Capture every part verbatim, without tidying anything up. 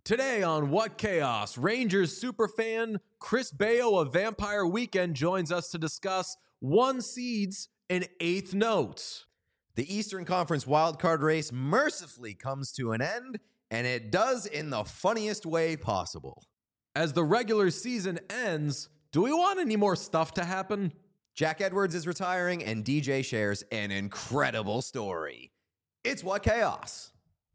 Today on What Chaos, Rangers superfan Chris Baio of Vampire Weekend joins us to discuss one seeds and eighth notes. The Eastern Conference wildcard race mercifully comes to an end, and it does in the funniest way possible. As the regular season ends, do we want any more stuff to happen? Jack Edwards is retiring, and D J shares an incredible story. It's What Chaos.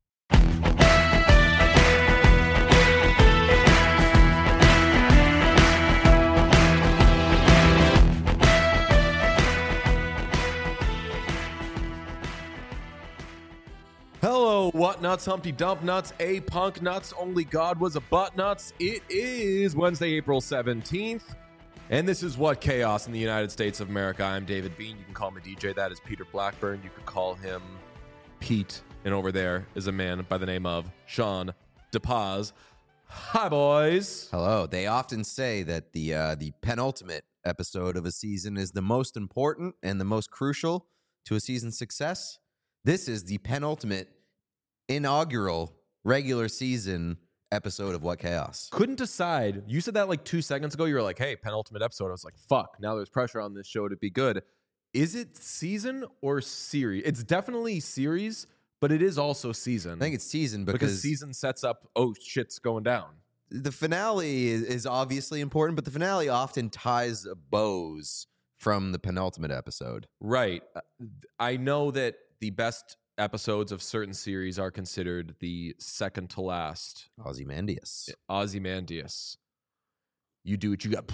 Hello, what nuts, Humpty Dump nuts, a punk nuts, only God was a butt nuts. It is Wednesday, April seventeenth, and this is What Chaos in the United States of America. I'm David Bean. You can call me D J. That is Peter Blackburn. You could call him Pete. And over there is a man by the name of Sean DePaz. Hi, boys. Hello. They often say that the uh, the penultimate episode of a season is the most important and the most crucial to a season's success. This is the penultimate inaugural regular season episode of What Chaos. Couldn't decide. You said that like two seconds ago. You were like, hey, penultimate episode. I was like, fuck, now there's pressure on this show to be good. Is it season or series? It's definitely series, but it is also season. I think it's season because, because season sets up, oh, shit's going down. The finale is, is obviously important, but the finale often ties bows from the penultimate episode. Right. I know that the best episodes of certain series are considered the second to last. Ozymandias. Ozymandias. You do what you got.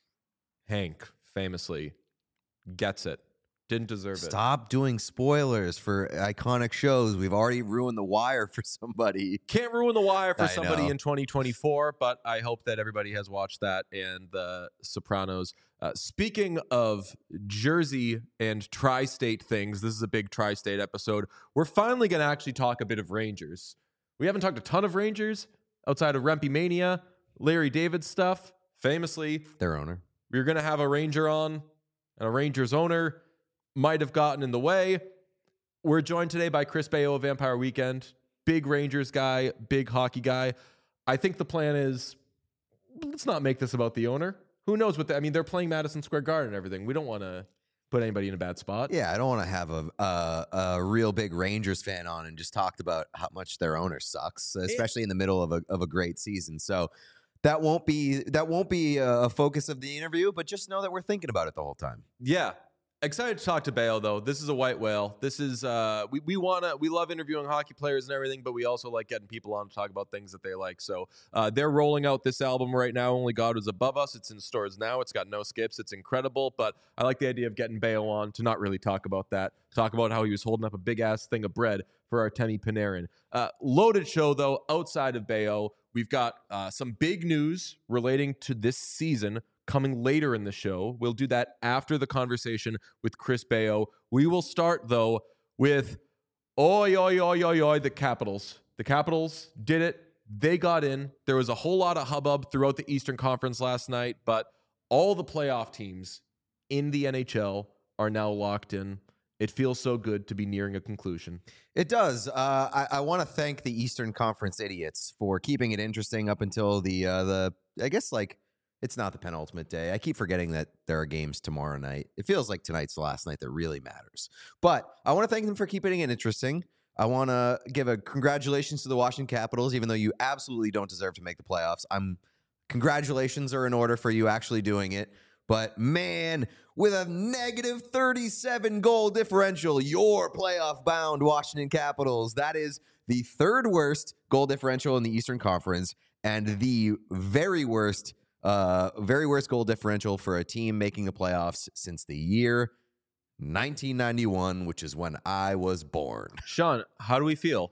Hank famously gets it. Didn't deserve it. Stop doing spoilers for iconic shows. We've already ruined The Wire for somebody. Can't ruin The Wire for I somebody know. in twenty twenty-four, but I hope that everybody has watched that and The Sopranos. Uh, speaking of Jersey and tri-state things, this is a big tri-state episode. We're finally going to actually talk a bit of Rangers. We haven't talked a ton of Rangers outside of Rempe Mania, Larry David stuff. Famously, Their owner. we were going to have a Ranger on, and a Rangers owner might have gotten in the way. We're joined today by Chris Baio of Vampire Weekend. Big Rangers guy, big hockey guy. I think the plan is, let's not make this about the owner. Who knows what the, I mean, they're playing Madison Square Garden and everything. We don't want to put anybody in a bad spot. Yeah, I don't want to have a, a a real big Rangers fan on and just talked about how much their owner sucks, especially in the middle of a of a great season. So that won't be that won't be a focus of the interview, but just know that we're thinking about it the whole time. Yeah. Excited to talk to Baio, though. This is a white whale. This is, uh, we, we want to, we love interviewing hockey players and everything, but we also like getting people on to talk about things that they like. So uh, they're rolling out this album right now, Only God Was Above Us. It's in stores now. It's got no skips. It's incredible, but I like the idea of getting Baio on to not really talk about that, talk about how he was holding up a big-ass thing of bread for Artemi Panarin. Uh, loaded show, though, outside of Baio. We've got uh, some big news relating to this season coming later in the show. We'll do that after the conversation with Chris Baio. We will start, though, with oi, oi, oi, oi, oi, the Capitals. The Capitals did it. They got in. There was a whole lot of hubbub throughout the Eastern Conference last night, but all the playoff teams in the N H L are now locked in. It feels so good to be nearing a conclusion. It does. Uh, I, I want to thank the Eastern Conference idiots for keeping it interesting up until the uh, the I guess like. It's not the penultimate day. I keep forgetting that there are games tomorrow night. It feels like tonight's the last night that really matters. But I want to thank them for keeping it interesting. I want to give a congratulations to the Washington Capitals, even though you absolutely don't deserve to make the playoffs. I'm congratulations are in order for you actually doing it. But man, with a negative thirty-seven goal differential, your playoff bound Washington Capitals. That is the third worst goal differential in the Eastern Conference and the very worst Uh, very worst goal differential for a team making the playoffs since the year nineteen ninety-one, which is when I was born. Sean, how do we feel?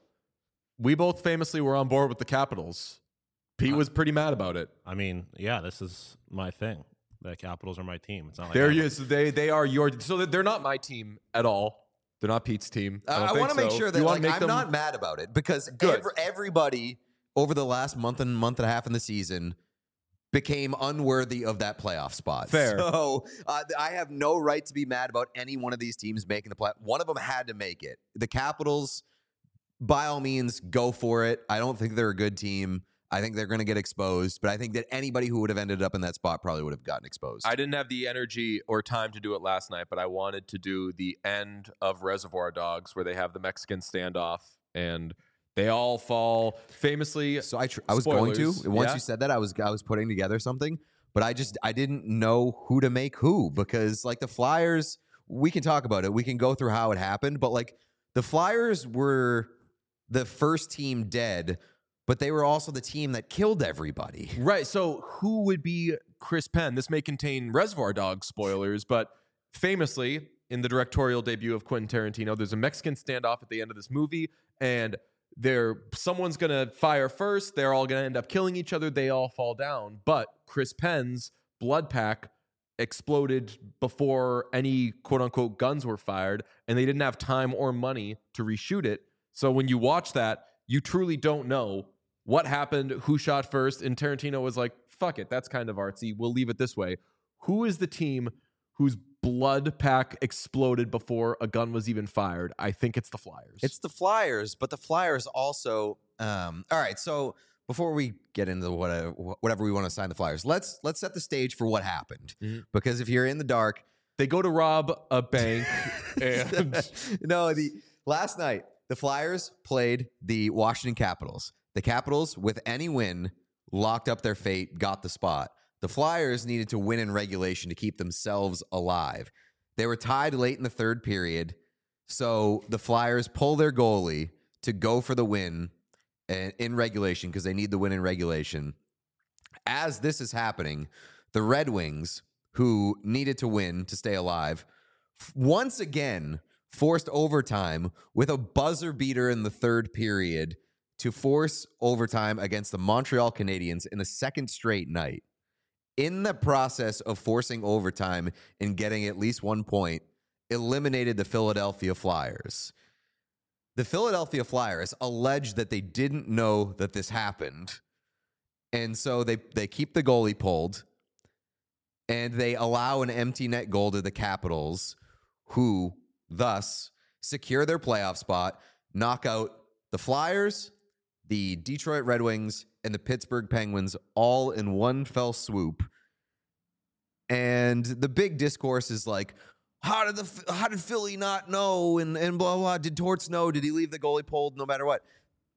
We both famously were on board with the Capitals. Pete Uh, was pretty mad about it. I mean, yeah, this is my thing. The Capitals are my team. It's not like There I'm- you is. They they are your. So they're not my team at all. They're not Pete's team. I, Uh, don't I think want to make so. sure that You wanna like, make I'm them- not mad about it because Good. ev- everybody over the last month and month and a half in the season became unworthy of that playoff spot. Fair. So uh, I have no right to be mad about any one of these teams making the play. One of them had to make it. The Capitals, by all means, go for it. I don't think they're a good team. I think they're going to get exposed, but I think that anybody who would have ended up in that spot probably would have gotten exposed. I didn't have the energy or time to do it last night, but I wanted to do the end of Reservoir Dogs where they have the Mexican standoff and they all fall famously. So I, tr- I was going to. Spoilers, Once yeah. you said that, I was I was putting together something, but I just I didn't know who to make who because like the Flyers, we can talk about it. We can go through how it happened, but like the Flyers were the first team dead, but they were also the team that killed everybody. Right. So who would be Chris Penn? This may contain Reservoir Dogs spoilers, but famously in the directorial debut of Quentin Tarantino, there's a Mexican standoff at the end of this movie, and they're someone's gonna fire first. They're all gonna end up killing each other. They all fall down, but Chris Penn's blood pack exploded before any quote unquote guns were fired, and they didn't have time or money to reshoot it. So when you watch that, you truly don't know what happened, who shot first, and Tarantino was like, fuck it, that's kind of artsy. We'll leave it this way. Who is the team whose blood pack exploded before a gun was even fired? I think it's the Flyers. It's the Flyers, but the Flyers also. Um, all right, so before we get into whatever, whatever we want to assign the Flyers, let's let's set the stage for what happened. Mm-hmm. Because if you're in the dark, they go to rob a bank, and no, the last night the Flyers played the Washington Capitals. The Capitals, with any win, locked up their fate, got the spot. The Flyers needed to win in regulation to keep themselves alive. They were tied late in the third period, so the Flyers pull their goalie to go for the win in regulation because they need the win in regulation. As this is happening, the Red Wings, who needed to win to stay alive, once again forced overtime with a buzzer beater in the third period to force overtime against the Montreal Canadiens in the second straight night. In the process of forcing overtime and getting at least one point, eliminated the Philadelphia Flyers. The Philadelphia Flyers alleged that they didn't know that this happened, and so they, they keep the goalie pulled, and they allow an empty net goal to the Capitals, who thus secure their playoff spot, knock out the Flyers, the Detroit Red Wings, and the Pittsburgh Penguins all in one fell swoop. And the big discourse is like, how did the how did Philly not know? And, and blah, blah. Did Torts know? Did he leave the goalie pulled no matter what?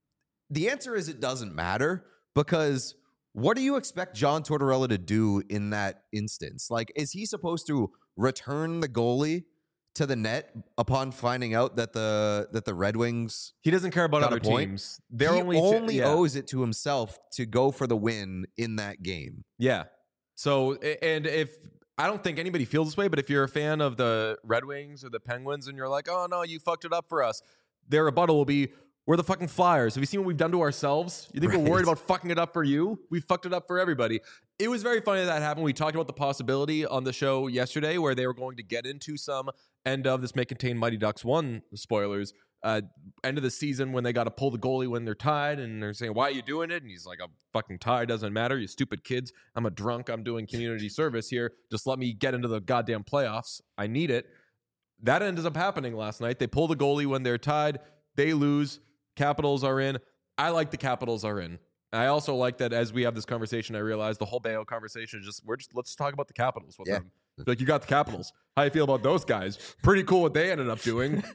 The answer is it doesn't matter, because what do you expect John Tortorella to do in that instance? Like, is he supposed to return the goalie to the net upon finding out that the that the Red Wings he doesn't care about got other a point? teams. They're he only only yeah. owes it to himself to go for the win in that game. Yeah. So, and if I don't think anybody feels this way, but if you're a fan of the Red Wings or the Penguins and you're like, oh no, you fucked it up for us, their rebuttal will be, we're the fucking Flyers. Have you seen what we've done to ourselves? You think Right. we're worried about fucking it up for you? We fucked it up for everybody. It was very funny that, that happened. We talked about the possibility on the show yesterday where they were going to get into some end of this may contain Mighty Ducks one spoilers. Uh, end of the season when they got to pull the goalie when they're tied and they're saying, why are you doing it? And he's like, I'm fucking tied. Doesn't matter. You stupid kids. I'm a drunk. I'm doing community service here. Just let me get into the goddamn playoffs. I need it. That ends up happening last night. They pull the goalie when they're tied. They lose. Capitals are in. I like the Capitals are in. I also like that as we have this conversation, I realize the whole Bayo conversation is just, we're just, let's talk about the Capitals with Yeah. them. Like, you got the Capitals. How you feel about those guys? Pretty cool what they ended up doing.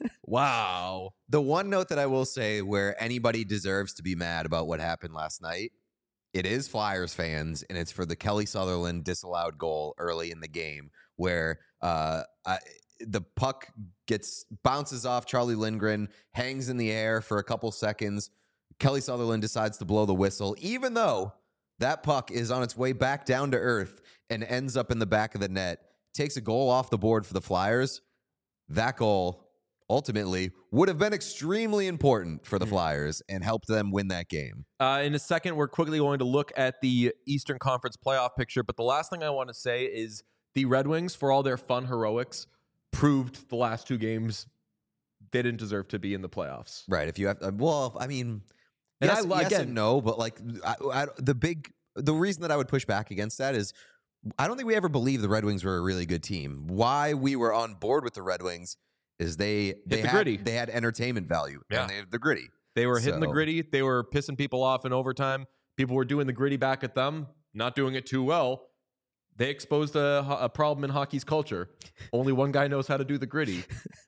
Wow. The one note that I will say where anybody deserves to be mad about what happened last night, it is Flyers fans, and it's for the Kelly Sutherland disallowed goal early in the game where uh, I, the puck gets bounces off Charlie Lindgren, hangs in the air for a couple seconds. Kelly Sutherland decides to blow the whistle, even though that puck is on its way back down to earth and ends up in the back of the net. Takes a goal off the board for the Flyers. That goal ultimately would have been extremely important for the Mm. Flyers and helped them win that game. Uh, in a second, we're quickly going to look at the Eastern Conference playoff picture. But the last thing I want to say is the Red Wings, for all their fun heroics, proved the last two games they didn't deserve to be in the playoffs. Right. If you have, uh, well, I mean, And yes, I- yes again- and no, but like I, I, the big, the reason that I would push back against that is I don't think we ever believed the Red Wings were a really good team. Why we were on board with the Red Wings is they they the had gritty. they had entertainment value. Yeah. And they had the gritty. They were hitting the So- gritty. They were pissing people off in overtime. People were doing the gritty back at them, not doing it too well. They exposed a, a problem in hockey's culture. Only one guy knows how to do the gritty.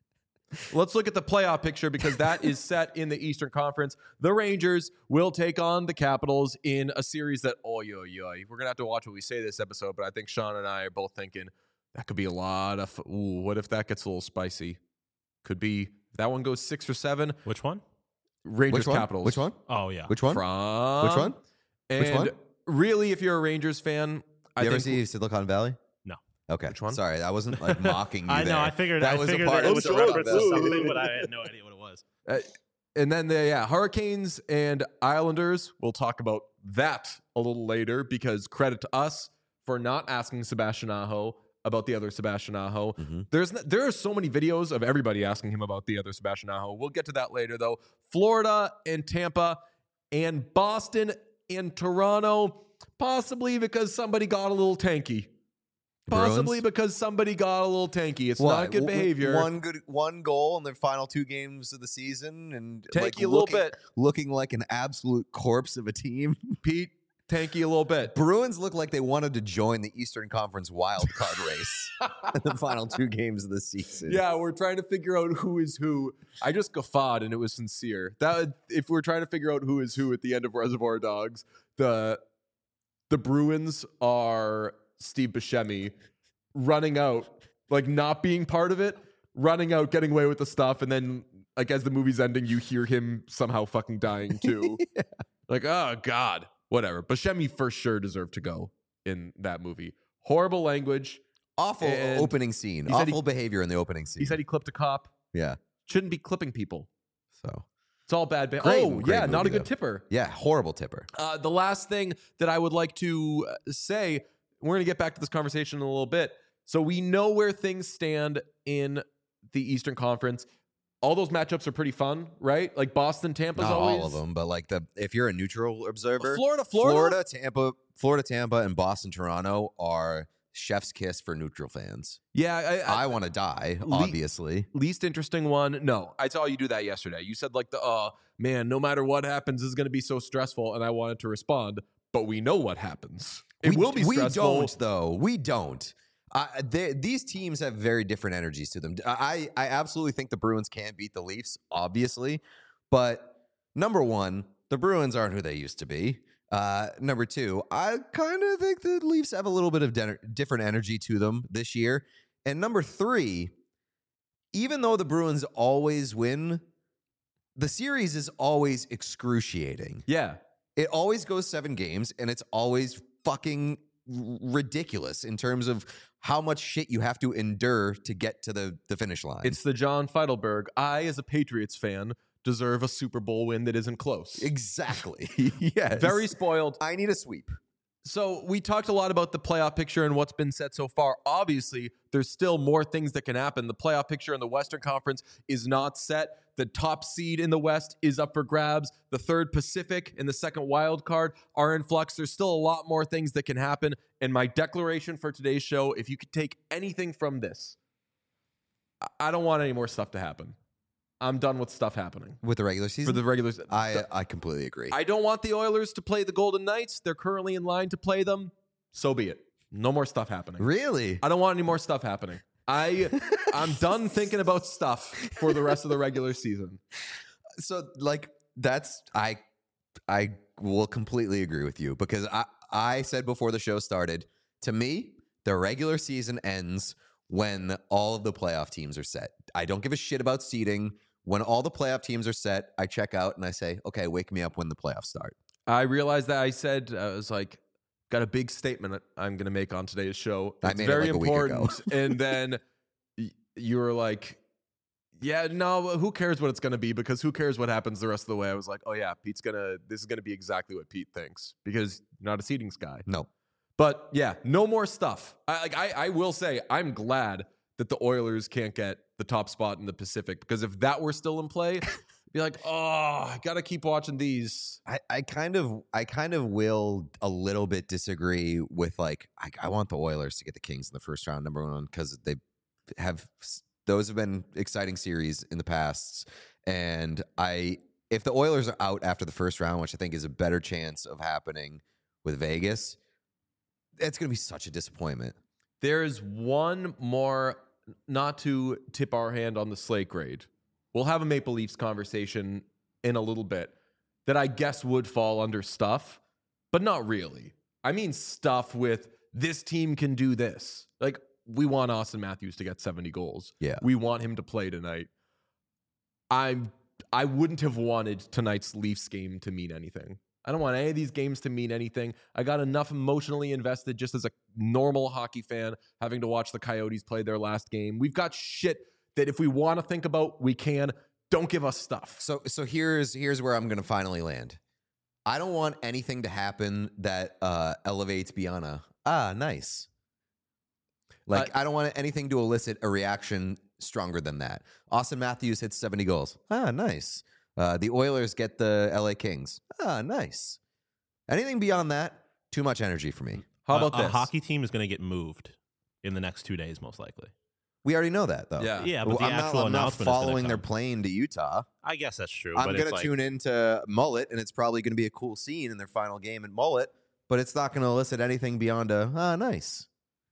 Let's look at the playoff picture because that is set in the Eastern Conference. The Rangers will take on the Capitals in a series that, oh, yo, yo, we're going to have to watch what we say this episode, but I think Sean and I are both thinking that could be a lot of, ooh, what if that gets a little spicy? Could be, if that one goes six or seven. Which one? Rangers Which one? Capitals. Which one? Oh, yeah. Which one? From, Which one? And Which one? really, if you're a Rangers fan, I You ever think see Silicon Valley? No. Okay. Which one? Sorry, I wasn't like mocking you I know. there. I figured that I was figured a part that it of was the a reference to Silicon Valley. something, but I had no idea what it was. Uh, and then the yeah, Hurricanes and Islanders. We'll talk about that a little later because credit to us for not asking Sebastian Aho about the other Sebastian Aho. Mhm. There's n- there are so many videos of everybody asking him about the other Sebastian Aho. We'll get to that later though. Florida and Tampa and Boston and Toronto, possibly because somebody got a little tanky. Possibly Bruins? because somebody got a little tanky. It's What? not good W- behavior. One good, one goal in the final two games of the season, and tanky like a little looking, bit. looking like an absolute corpse of a team. Pete, tanky a little bit. Bruins look like they wanted to join the Eastern Conference wild card race in the final two games of the season. Yeah, we're trying to figure out who is who. I just guffawed and it was sincere. That if we're trying to figure out who is who at the end of Reservoir Dogs, the the Bruins are Steve Buscemi running out, like not being part of it, running out, getting away with the stuff, and then like as the movie's ending, you hear him somehow fucking dying too. Yeah. Like, oh God, whatever. Buscemi for sure deserved to go in that movie. Horrible language. Awful And opening scene. he said he- Awful behavior in the opening scene. He said he clipped a cop. yeah. Shouldn't be clipping people. So It's all bad. Ba- Great- oh, great yeah, not a movie, good though. tipper. yeah, horrible tipper. Uh, the last thing that I would like to uh, say, we're going to get back to this conversation in a little bit. So we know where things stand in the Eastern Conference. All those matchups are pretty fun, right? Like Boston, Tampa's Not always. all of them, but like the if you're a neutral observer, Florida, Florida. Florida, Tampa, Florida, Tampa, and Boston, Toronto are chef's kiss for neutral fans. Yeah, I, I, I want to die, Le- obviously. least interesting one. No, I saw you do that yesterday. You said like the, oh man, no matter what happens, this is going to be so stressful. And I wanted to respond, but we know what happens. It we, will be stressful. We don't, though. We don't. Uh, they, these teams have very different energies to them. I, I absolutely think the Bruins can beat the Leafs, obviously. But number one, the Bruins aren't who they used to be. Uh, number two, I kind of think the Leafs have a little bit of de- different energy to them this year. And number three, even though the Bruins always win, the series is always excruciating. Yeah. It always goes seven games, and it's always fucking r- ridiculous in terms of how much shit you have to endure to get to the, the finish line. It's the John Feidelberg. I, as a Patriots fan, deserve a Super Bowl win that isn't close. exactly. yes. Very spoiled. I need a sweep. So we talked a lot about the playoff picture and what's been said so far. Obviously, there's still more things that can happen. The playoff picture in the Western Conference is not set. The top seed in the West is up for grabs. The third Pacific and the second wild card are in flux. There's still a lot more things that can happen. And my declaration for today's show, if you could take anything from this, I- I don't want any more stuff to happen. I'm done with stuff happening With the regular for season? the regular. I, I completely agree. I don't want the Oilers to play the Golden Knights. They're currently in line to play them. So be it. No more stuff happening. really? I don't want any more stuff happening. I I'm done thinking about stuff for the rest of the regular season. So like that's I I will completely agree with you because I I said before the show started, to me, the regular season ends when all of the playoff teams are set. I don't give a shit about seeding. When all the playoff teams are set, I check out and I say, okay, wake me up when the playoffs start. I realized that I said I was like, got a big statement I'm going to make on today's show. I It's made it very like a week ago. important. And then y- you were like, yeah, no, who cares what it's going to be? Because who cares what happens the rest of the way? I was like, oh yeah, Pete's going to, this is going to be exactly what Pete thinks because you're not a seedings guy. No. But yeah, no more stuff. I, like I, I will say, I'm glad that the Oilers can't get the top spot in the Pacific because if that were still in play, I'd be like, oh, I gotta keep watching these. I, I kind of I kind of will a little bit disagree with like I, I want the Oilers to get the Kings in the first round, number one, because they have those have been exciting series in the past, and I if the Oilers are out after the first round, which I think is a better chance of happening with Vegas, it's going to be such a disappointment. There's one more, not to tip our hand on the slate grade. We'll have a Maple Leafs conversation in a little bit that I guess would fall under stuff, but not really. I mean stuff with this team can do this. Like, we want Austin Matthews to get seventy goals. Yeah. We want him to play tonight. I'm I wouldn't have wanted tonight's Leafs game to mean anything. I don't want any of these games to mean anything. I got enough emotionally invested just as a normal hockey fan having to watch the Coyotes play their last game. We've got shit that if we want to think about, we can. Don't give us stuff. So so here's here's where I'm going to finally land. I don't want anything to happen that uh, elevates beyond a, ah, nice. Like, Uh, I don't want anything to elicit a reaction stronger than that. Austin Matthews hits seventy goals. Ah, nice. Uh, the Oilers get the L A Kings. Ah, nice. Anything beyond that, too much energy for me. How A- about a this? hockey team is going to get moved in the next two days, most likely. We already know that, though. Yeah. Yeah, but the I'm not, actual I'm not announcement is following gonna their come. plane to Utah. I guess that's true. I'm but going it's to like, tune into Mullet, and it's probably going to be a cool scene in their final game at Mullet, but it's not going to elicit anything beyond a, ah, nice.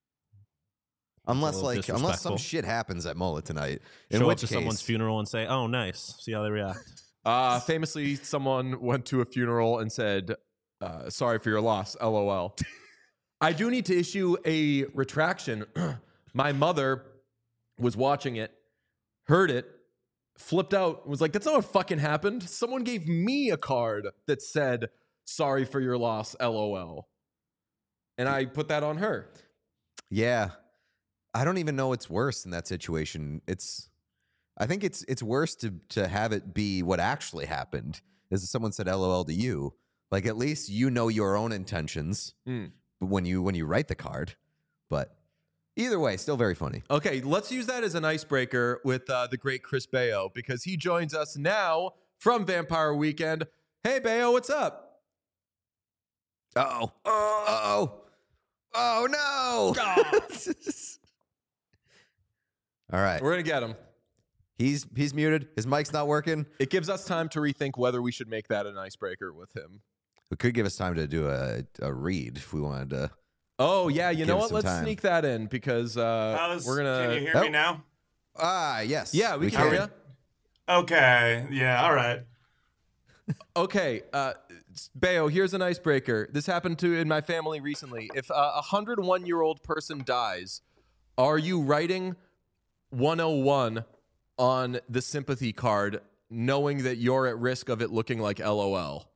Unless, little like, unless some disrespectful. shit happens at Mullet tonight. In show which up to case, someone's funeral and say, "Oh, nice." See how they react. Uh, famously, someone went to a funeral and said, uh, sorry for your loss, LOL. I do need to issue a retraction. My mother was watching it, heard it, flipped out, was like, that's not what fucking happened. Someone gave me a card that said, sorry for your loss, LOL. And I put that on her. yeah. I don't even know what's worse in that situation. It's, I think it's it's worse to to have it be what actually happened. Is if someone said LOL to you, like at least you know your own intentions Mm. when you when you write the card. But either way, still very funny. Okay, let's use that as an icebreaker with uh, the great Chris Bayo, because he joins us now from Vampire Weekend. Hey, Bayo, what's up? Uh oh. Uh oh. Oh no. All right. We're going to get him. He's he's muted. His mic's not working. It gives us time to rethink whether we should make that an icebreaker with him. It could give us time to do a, a read if we wanted to. Oh, yeah, you Give know us what? some Let's time. sneak that in because uh, How's, we're going can you to... hear Oh. me now? Ah, yes. Yeah, we, can hear you. Okay. Yeah. All right. Okay, uh, Bayo, here's an icebreaker. This happened to in my family recently. If a one hundred one year old person dies, are you writing one oh one on the sympathy card, knowing that you're at risk of it looking like LOL?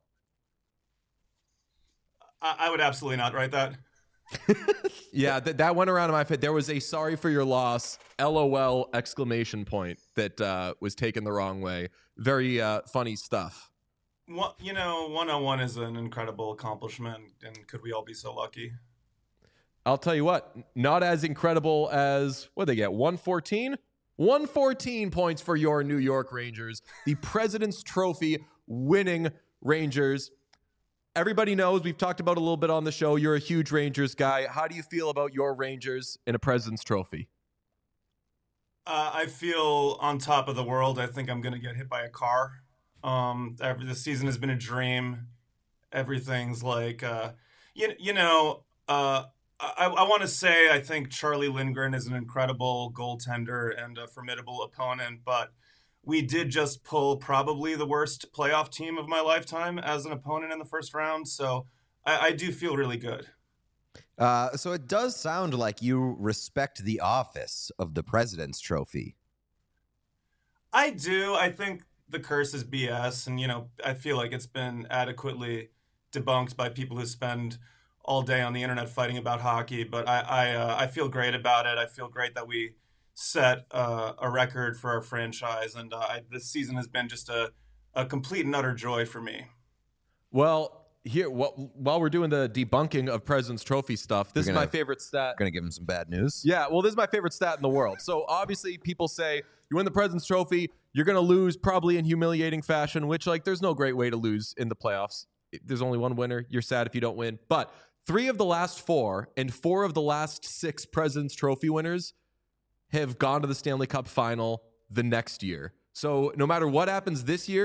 I, I would absolutely not write that. Yeah, that that went around in my face. There was a sorry for your loss, LOL exclamation point that uh, was taken the wrong way. Very uh, funny stuff. What, you know, one oh one is an incredible accomplishment, and could we all be so lucky? I'll tell you what, not as incredible as, what they get, one fourteen? one fourteen points for your New York Rangers, the President's Trophy winning Rangers. Everybody knows, we've talked about a little bit on the show, you're a huge Rangers guy. How do you feel about your Rangers in a President's Trophy? Uh, I feel on top of the world. I think I'm going to get hit by a car. Um, every, the season has been a dream. Everything's like, uh, you, you know, uh, I, I want to say I think Charlie Lindgren is an incredible goaltender and a formidable opponent, but we did just pull probably the worst playoff team of my lifetime as an opponent in the first round. So I, I do feel really good. Uh, so it does sound like you respect the office of the President's Trophy. I do. I think the curse is B S, and you know, I feel like it's been adequately debunked by people who spend all day on the internet fighting about hockey. But I, I, uh, I feel great about it. I feel great that we set uh, a record for our franchise, and uh, I, this season has been just a, a complete and utter joy for me. Well, here, wh- while we're doing the debunking of President's Trophy stuff, this You're is my gonna- favorite stat. Gonna give him some bad news. Yeah, well, this is my favorite stat in the world. So obviously, people say you win the President's Trophy, you're going to lose probably in humiliating fashion, which, like, there's no great way to lose in the playoffs. There's only one winner. You're sad if you don't win. But three of the last four and four of the last six President's Trophy winners have gone to the Stanley Cup final the next year. So no matter what happens this year,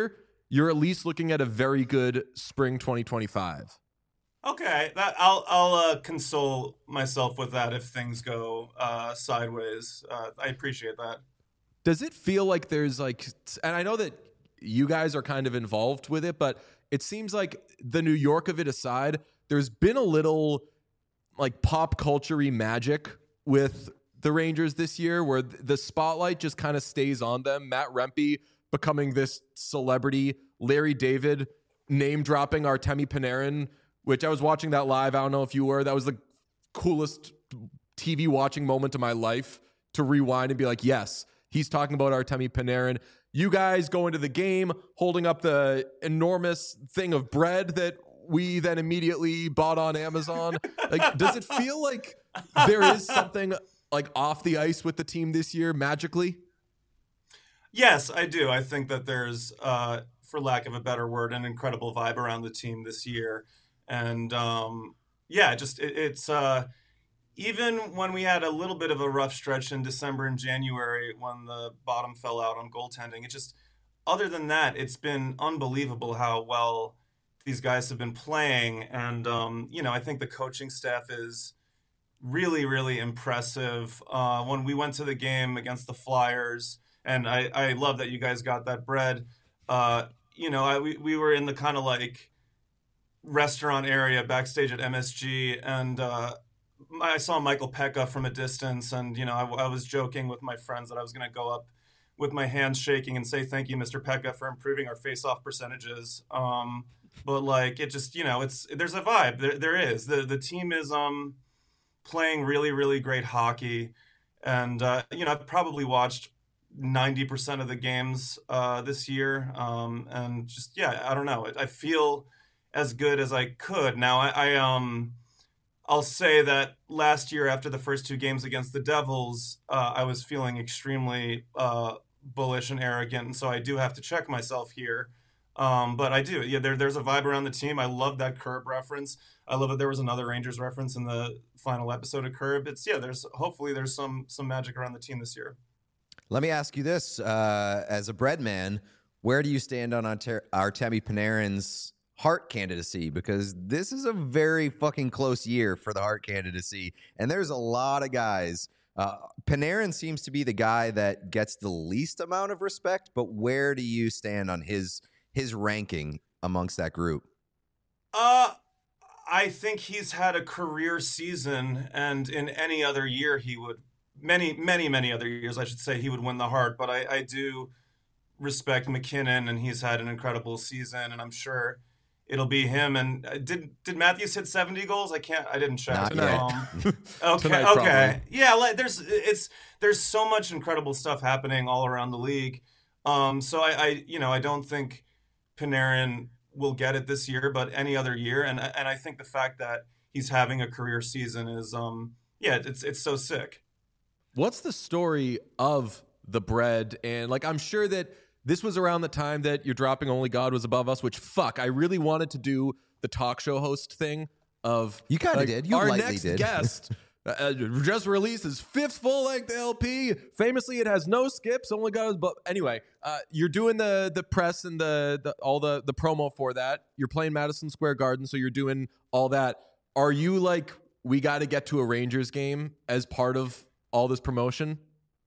you're at least looking at a very good spring twenty twenty-five. Okay, that I'll I'll uh, console myself with that if things go uh, sideways. Uh, I appreciate that. Does it feel like there's like, and I know that you guys are kind of involved with it, but it seems like the New York of it aside, there's been a little like pop culture-y magic with the Rangers this year where the spotlight just kind of stays on them. Matt Rempe becoming this celebrity, Larry David name dropping Artemi Panarin, which I was watching that live. I don't know if you were. That was the coolest T V watching moment of my life, to rewind and be like, yes, he's talking about Artemi Panarin. You guys go into the game holding up the enormous thing of bread that we then immediately bought on Amazon. Like, does it feel like there is something like off the ice with the team this year magically? Yes, I do. I think that there's, uh, for lack of a better word, an incredible vibe around the team this year. And um, yeah, just it, it's uh, even when we had a little bit of a rough stretch in December and January when the bottom fell out on goaltending, it just, other than that, it's been unbelievable how well these guys have been playing. And, um, you know, I think the coaching staff is really, really impressive. Uh, when we went to the game against the Flyers, and I, I love that you guys got that bread, uh, you know, I, we, we were in the kind of like restaurant area backstage at M S G, and uh, I saw Michael Pekka from a distance, and, you know, I, I was joking with my friends that I was going to go up with my hands shaking and say, thank you, Mister Pekka, for improving our face-off percentages. Um, but like, it just, you know, it's, there's a vibe. There, there is. The, the team is um, playing really, really great hockey. And, uh, you know, I've probably watched ninety percent of the games uh, this year. Um, and just, yeah, I don't know. I feel as good as I could. Now, I, I um, I'll say that last year after the first two games against the Devils, uh, I was feeling extremely uh, bullish and arrogant, and so I do have to check myself here. Um, but I do, yeah. There, there's a vibe around the team. I love that Curb reference. I love that there was another Rangers reference in the final episode of Curb. It's yeah. There's hopefully there's some some magic around the team this year. Let me ask you this: uh, as a bread man, where do you stand on Arter- Artemi Panarin's Hart candidacy? Because this is a very fucking close year for the Hart candidacy, and there's a lot of guys. Uh, Panarin seems to be the guy that gets the least amount of respect, but where do you stand on his his ranking amongst that group? Uh, I think he's had a career season, and in any other year he would, many, many, many other years, I should say, he would win the Hart. But I, I do respect McKinnon, and he's had an incredible season, and I'm sure it'll be him. And uh, did did Matthews hit seventy goals? I can't. I didn't check. Not yet. Um, okay. Tonight, okay. Yeah. Like, there's it's there's so much incredible stuff happening all around the league. Um. So I, I you know I don't think Panarin will get it this year, but any other year. And and I think the fact that he's having a career season is um yeah it's it's so sick. What's the story of the bread? And like, I'm sure that this was around the time that you're dropping Only God Was Above Us, which fuck, I really wanted to do the talk show host thing of You kind of like, did. You our lightly next did. guest uh, just released his fifth full-length L P. Famously, it has no skips. Only God Was Above. Anyway, uh, you're doing the the press and the, the all the the promo for that. You're playing Madison Square Garden, so you're doing all that. Are you like, we got to get to a Rangers game as part of all this promotion?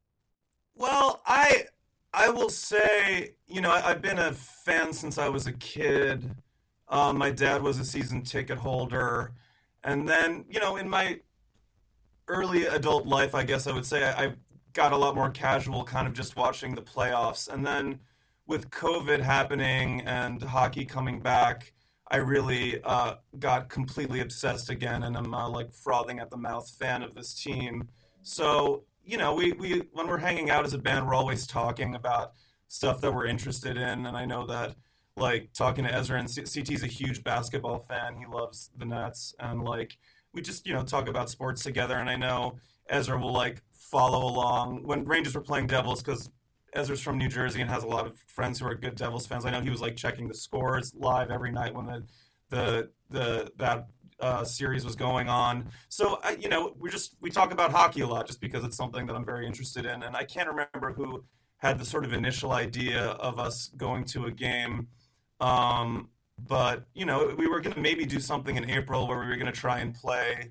Well, I I will say, you know, I, I've been a fan since I was a kid. Um, my dad was a season ticket holder, and then, you know, in my early adult life, I guess I would say, I, I got a lot more casual, kind of just watching the playoffs. And then with COVID happening and hockey coming back, I really uh, got completely obsessed again, and I'm uh, like frothing at the mouth fan of this team. So, you know, we, we when we're hanging out as a band, we're always talking about stuff that we're interested in. And I know that, like, talking to Ezra, and C- CT's a huge basketball fan. He loves the Nets. And, like, we just, you know, talk about sports together. And I know Ezra will, like, follow along when Rangers were playing Devils, because Ezra's from New Jersey and has a lot of friends who are good Devils fans. I know he was, like, checking the scores live every night when the the the that uh, series was going on. So, I, you know, we just we talk about hockey a lot just because it's something that I'm very interested in. And I can't remember who had the sort of initial idea of us going to a game. Um, but you know, we were gonna maybe do something in April where we were gonna try and play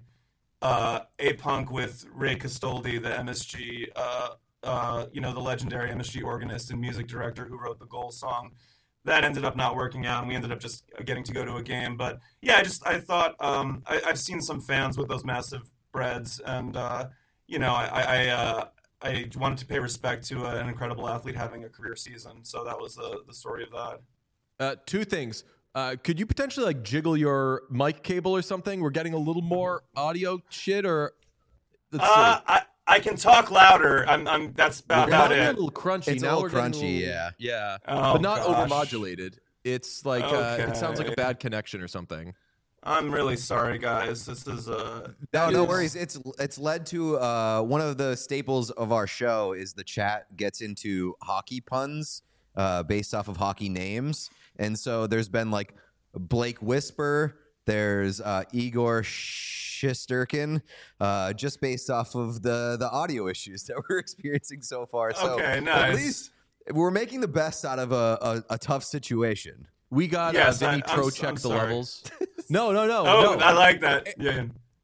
uh, A-Punk with Ray Castoldi, the M S G, uh, uh, you know, the legendary M S G organist and music director who wrote the Goal song. That ended up not working out, and we ended up just getting to go to a game. But yeah, I just I thought um, I, I've seen some fans with those massive breads, and uh, you know, I I, uh, I wanted to pay respect to an incredible athlete having a career season. So that was the the story of that. Uh, two things. Uh, could you potentially like jiggle your mic cable or something? We're getting a little more audio shit, or let's Uh, see. I I can talk louder. I'm I'm that's about, We're about getting a it. little crunchy. It's a now little we're getting crunchy, a little- yeah. yeah, Oh, but not gosh. overmodulated. It's like uh, it sounds like a Okay. bad connection or something. I'm really sorry, guys. This is uh. No, no is- worries. It's it's led to uh, one of the staples of our show is the chat gets into hockey puns uh, based off of hockey names, and so there's been like Blake Whisper, there's uh, Igor Shesterkin, uh, just based off of the the audio issues that we're experiencing so far. So Okay, at nice. least we're making the best out of a, a, a tough situation. We got Yes, uh, I- Vinny I'm- Tro check I'm the sorry. levels. No, no, no, Oh, no. I like that. Yeah.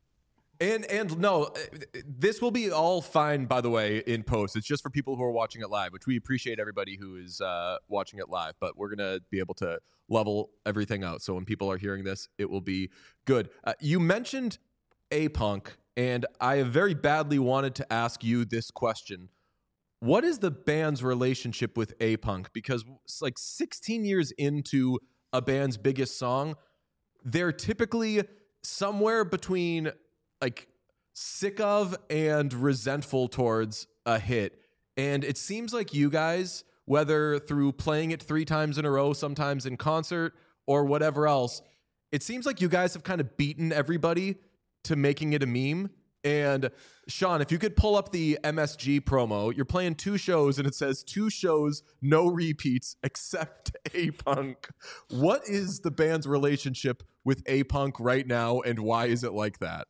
And and no, uh, this will be all fine. By the way, in post, it's just for people who are watching it live, which we appreciate everybody who is uh, watching it live. But we're gonna be able to level everything out, so when people are hearing this, it will be good. Uh, you mentioned A-Punk, and I have very badly wanted to ask you this question: what is the band's relationship with A-Punk? Because it's like sixteen years into a band's biggest song, they're typically somewhere between like sick of and resentful towards a hit. And it seems like you guys, whether through playing it three times in a row, sometimes in concert or whatever else, it seems like you guys have kind of beaten everybody to making it a meme. And Sean, if you could pull up the M S G promo, you're playing two shows and it says two shows, no repeats except A-Punk. What is the band's relationship with A-Punk right now, and why is it like that?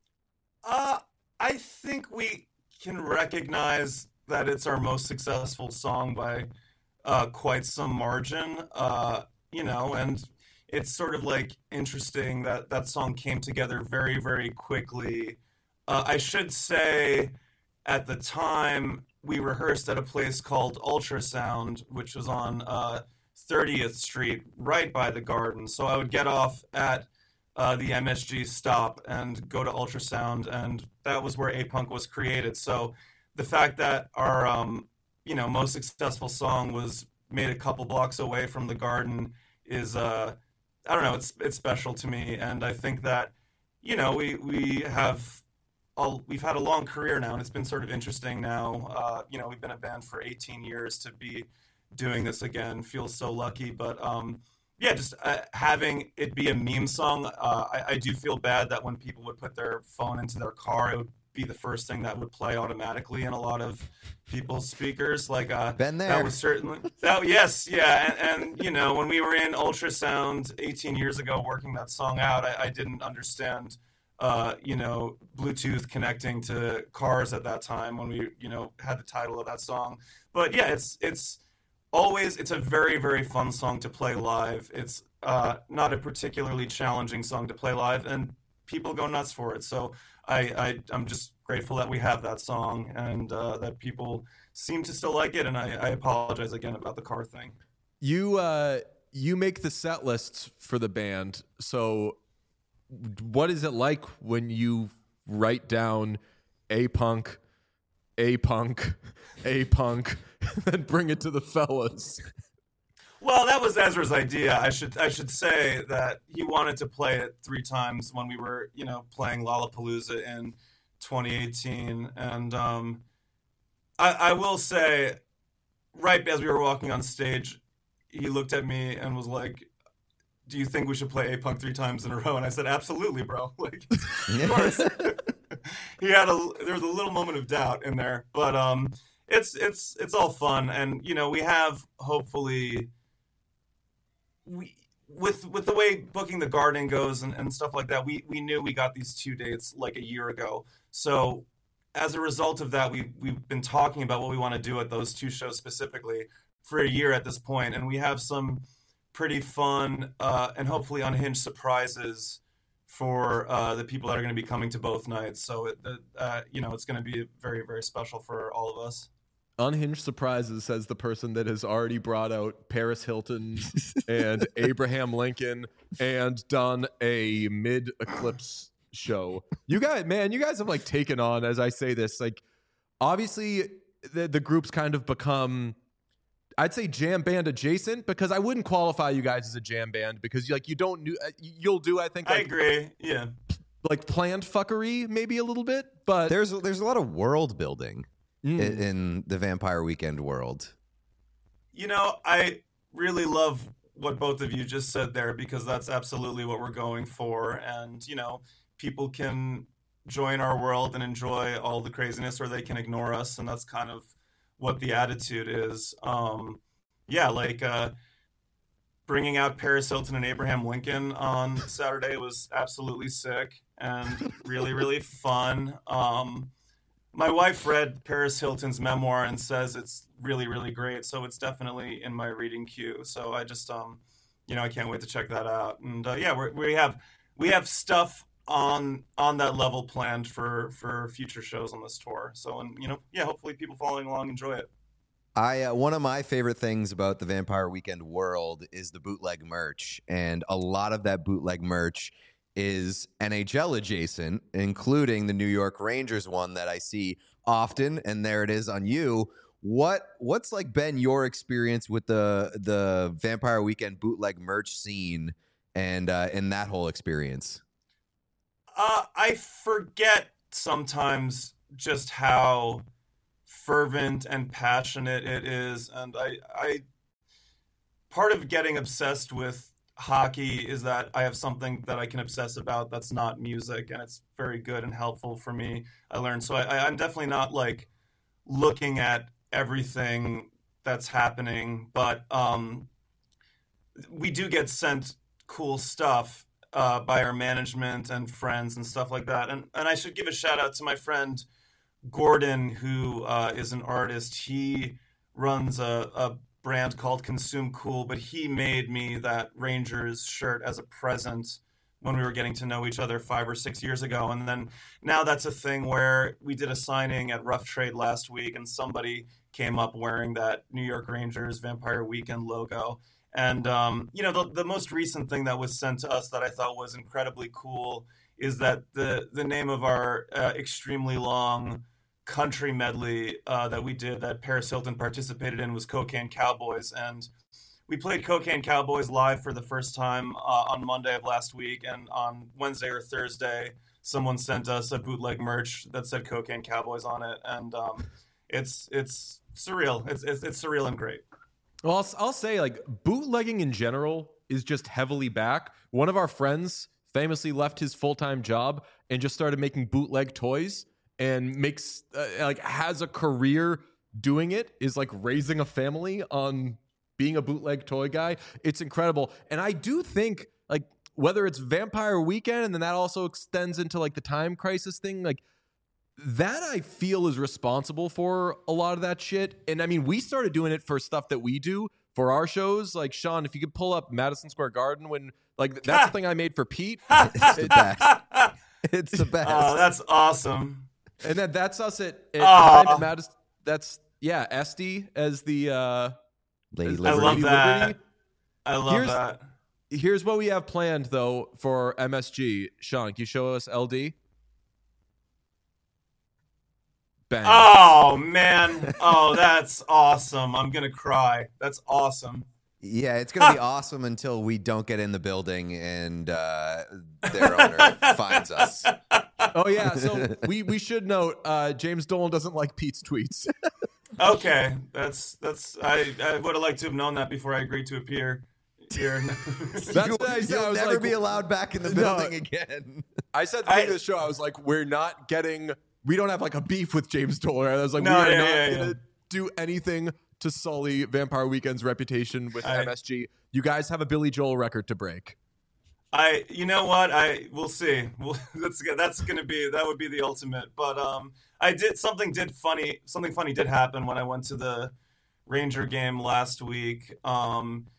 Uh, I think we can recognize that it's our most successful song by uh, quite some margin. Uh, you know, and it's sort of like interesting that that song came together very, very quickly. Uh, I should say, at the time, we rehearsed at a place called Ultrasound, which was on uh, thirtieth Street, right by the Garden. So I would get off at uh, the M S G stop and go to Ultrasound, and that was where A-Punk was created. So the fact that our, um, you know, most successful song was made a couple blocks away from the Garden is, uh, I don't know, it's it's special to me, and I think that, you know, we we have. All, we've had a long career now, and it's been sort of interesting now. Uh, you know, we've been a band for eighteen years. To be doing this again feels so lucky. But um, yeah, just uh, having it be a meme song, uh, I, I do feel bad that when people would put their phone into their car, it would be the first thing that would play automatically in a lot of people's speakers. Like uh, Been there. that was certainly that. Yes, yeah, and, and you know, when we were in Ultrasound eighteen years ago, working that song out, I, I didn't understand. Uh, you know, Bluetooth connecting to cars at that time when we, you know, had the title of that song. But yeah, it's it's always it's a very very fun song to play live. It's uh, not a particularly challenging song to play live, and people go nuts for it. So I, I I'm just grateful that we have that song and uh, that people seem to still like it. And I, I apologize again about the car thing. You uh, you make the set lists for the band, so. What is it like when you write down A-Punk, A-Punk, A-Punk, and bring it to the fellas? Well, that was Ezra's idea. I should I should say that he wanted to play it three times when we were, you know, playing Lollapalooza in twenty eighteen, and um, I, I will say, right as we were walking on stage, he looked at me and was like, do you think we should play A-Punk three times in a row? And I said, absolutely, bro. Like, of course. He had a there was a little moment of doubt in there, but um, it's it's it's all fun, and you know, we have hopefully we with with the way Booking the Garden goes and, and stuff like that. We we knew we got these two dates like a year ago, so as a result of that, we we've been talking about what we want to do at those two shows specifically for a year at this point, and we have some pretty fun, uh, and hopefully unhinged surprises for uh, the people that are going to be coming to both nights. So, it, uh, you know, it's going to be very, very special for all of us. Unhinged surprises, says the person that has already brought out Paris Hilton and Abraham Lincoln and done a mid-eclipse show. You guys, man, you guys have like taken on, as I say this, like obviously the, the group's kind of become, I'd say jam band adjacent, because I wouldn't qualify you guys as a jam band because like you don't, you'll do, I think. Like, I agree. Yeah. Like planned fuckery, maybe a little bit, but There's there's a lot of world building Mm. in, in the Vampire Weekend world. You know, I really love what both of you just said there, because that's absolutely what we're going for. And, you know, people can join our world and enjoy all the craziness, or they can ignore us. And that's kind of what the attitude is. Um, yeah, like uh, bringing out Paris Hilton and Abraham Lincoln on Saturday was absolutely sick and really, really fun. Um, My wife read Paris Hilton's memoir and says it's really, really great. So it's definitely in my reading queue. So I just, um, you know, I can't wait to check that out. And uh, yeah, we're, we have we have stuff on on that level planned for for future shows on this tour. So, and you know, yeah, hopefully people following along enjoy it. I uh, one of my favorite things about the Vampire Weekend world is the bootleg merch, and a lot of that bootleg merch is N H L adjacent, including the New York Rangers one that I see often, and there it is on you. What what's like been your experience with the the Vampire Weekend bootleg merch scene and uh, and that whole experience? Uh, I forget sometimes just how fervent and passionate it is, and I I part of getting obsessed with hockey is that I have something that I can obsess about that's not music, and it's very good and helpful for me. I learned. So I, I'm definitely not like looking at everything that's happening, but um, we do get sent cool stuff uh, by our management and friends and stuff like that. And and I should give a shout out to my friend Gordon, who uh, is an artist. He runs a, a brand called Consume Cool, but he made me that Rangers shirt as a present when we were getting to know each other five or six years ago. And then now that's a thing where we did a signing at Rough Trade last week, and somebody came up wearing that New York Rangers Vampire Weekend logo. And, um, you know, the, the most recent thing that was sent to us that I thought was incredibly cool is that the, the name of our uh, extremely long country medley uh, that we did that Paris Hilton participated in was Cocaine Cowboys. And we played Cocaine Cowboys live for the first time uh, on Monday of last week. And on Wednesday or Thursday, someone sent us a bootleg merch that said Cocaine Cowboys on it. And um, it's it's surreal. It's, it's, it's surreal and great. Well, I'll, I'll say like bootlegging in general is just heavily back. One of our friends famously left his full-time job and just started making bootleg toys, and makes uh, like has a career doing it, is like raising a family on being a bootleg toy guy. It's incredible. And I do think like whether it's Vampire Weekend and then that also extends into like the Time Crisis thing, like that I feel is responsible for a lot of that shit. And I mean, we started doing it for stuff that we do for our shows. Like Sean, if you could pull up Madison Square Garden when like that's the thing I made for Pete. It's the best. It's the best. Oh, that's awesome. And then that's us at, at, Aw. at Madison. That's yeah, Esty as the uh, Lady as I Liberty. love Lady that. Liberty. I love Here's- that. Here's what we have planned though for M S G. Sean, can you show us L D? Bang. Oh, man. Oh, that's awesome. I'm going to cry. That's awesome. Yeah, it's gonna be awesome until we don't get in the building and uh, their owner finds us. Oh yeah, so we we should note uh, James Dolan doesn't like Pete's tweets. Okay. That's, that's, I, I would have liked to have known that before I agreed to appear here. That's you, what I said. You'll I was never like, be allowed back in the No. building again. I said at the I- beginning of the show, I was like, we're not getting, we don't have like a beef with James Dolan. I was like, No, we are yeah, not yeah, gonna yeah. do anything to sully Vampire Weekend's reputation with I- M S G. You guys have a Billy Joel record to break. I, you know what? I, we'll see. Well, that's, that's going to be, that would be the ultimate. But, um, I did, something did funny, something funny did happen when I went to the Ranger game last week. Um,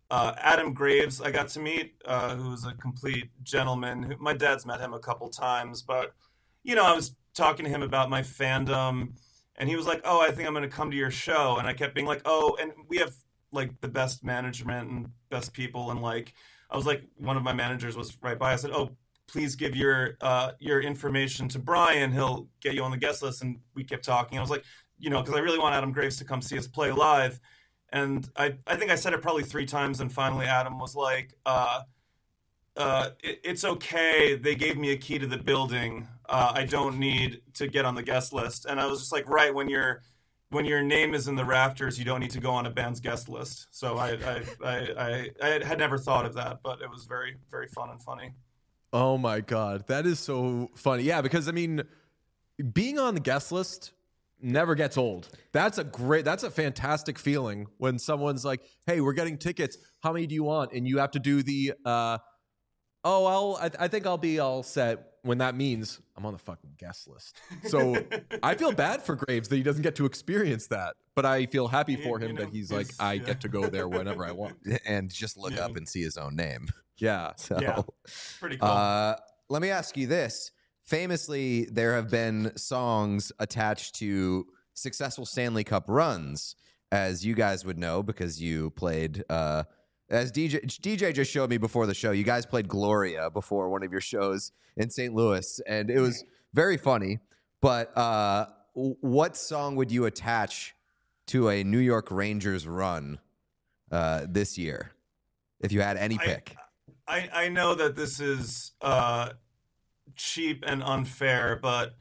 uh, Adam Graves I got to meet, uh, who's a complete gentleman. Who, my dad's met him a couple times, but you know, I was talking to him about my fandom, and he was like, "Oh, I think I'm going to come to your show," and I kept being like, "Oh," and we have like the best management and best people, and like I was like, one of my managers was right by. I said, "Oh, please give your uh, your information to Brian. He'll get you on the guest list." And we kept talking. I was like, you know, because I really want Adam Graves to come see us play live. And I, I think I said it probably three times. And finally, Adam was like, uh, uh, it, it's okay. They gave me a key to the building. Uh, I don't need to get on the guest list. And I was just like, right, when you're when your name is in the rafters, you don't need to go on a band's guest list. So I I, I, I, I had never thought of that, but it was very, very fun and funny. Oh my God. That is so funny. Yeah, because I mean, being on the guest list never gets old. That's a great, that's a fantastic feeling when someone's like, "Hey, we're getting tickets. How many do you want?" And you have to do the, uh, oh, I'll, I, I think I'll be all set, when that means I'm on the fucking guest list. So I feel bad for Graves that he doesn't get to experience that, but I feel happy for him you know, that he's like, I yeah. get to go there whenever I want. And just look yeah. up and see his own name. Yeah. So, yeah. Pretty cool. Uh, let me ask you this. Famously, there have been songs attached to successful Stanley Cup runs, as you guys would know, because you played, uh, as D J, D J just showed me before the show, you guys played Gloria before one of your shows in Saint Louis, and it was very funny. But uh, what song would you attach to a New York Rangers run uh, this year, if you had any pick? I, I, I know that this is uh, cheap and unfair, but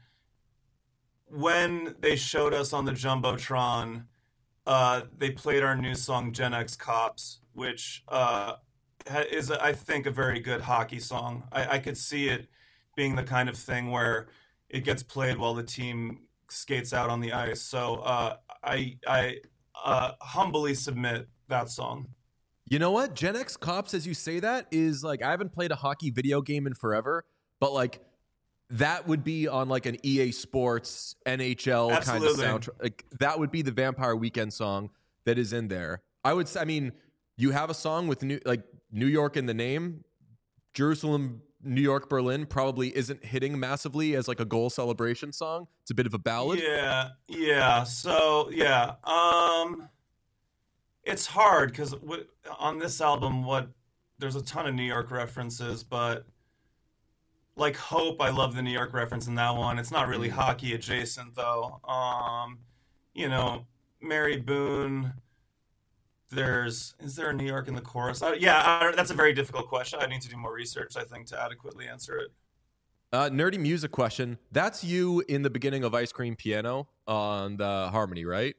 when they showed us on the Jumbotron, uh, they played our new song, Gen X Cops, which uh, is, I think, a very good hockey song. I, I could see it being the kind of thing where it gets played while the team skates out on the ice. So uh, I, I uh, humbly submit that song. You know what? Gen X Cops, as you say that, is like, I haven't played a hockey video game in forever, but like that would be on like an E A Sports N H L Absolutely. kind of soundtrack. Like that would be the Vampire Weekend song that is in there. I would say, I mean, you have a song with new, like New York in the name. Jerusalem, New York, Berlin probably isn't hitting massively as like a goal celebration song. It's a bit of a ballad. Yeah, yeah. So yeah, um, it's hard because on this album, what there's a ton of New York references, but like Hope, I love the New York reference in that one. It's not really hockey adjacent though. Um, you know, Mary Boone. There's is there a New York in the chorus? Uh, yeah, I, that's a very difficult question. I need to do more research, I think, to adequately answer it. Uh, nerdy music question. That's you in the beginning of Ice Cream Piano on the Harmony, right?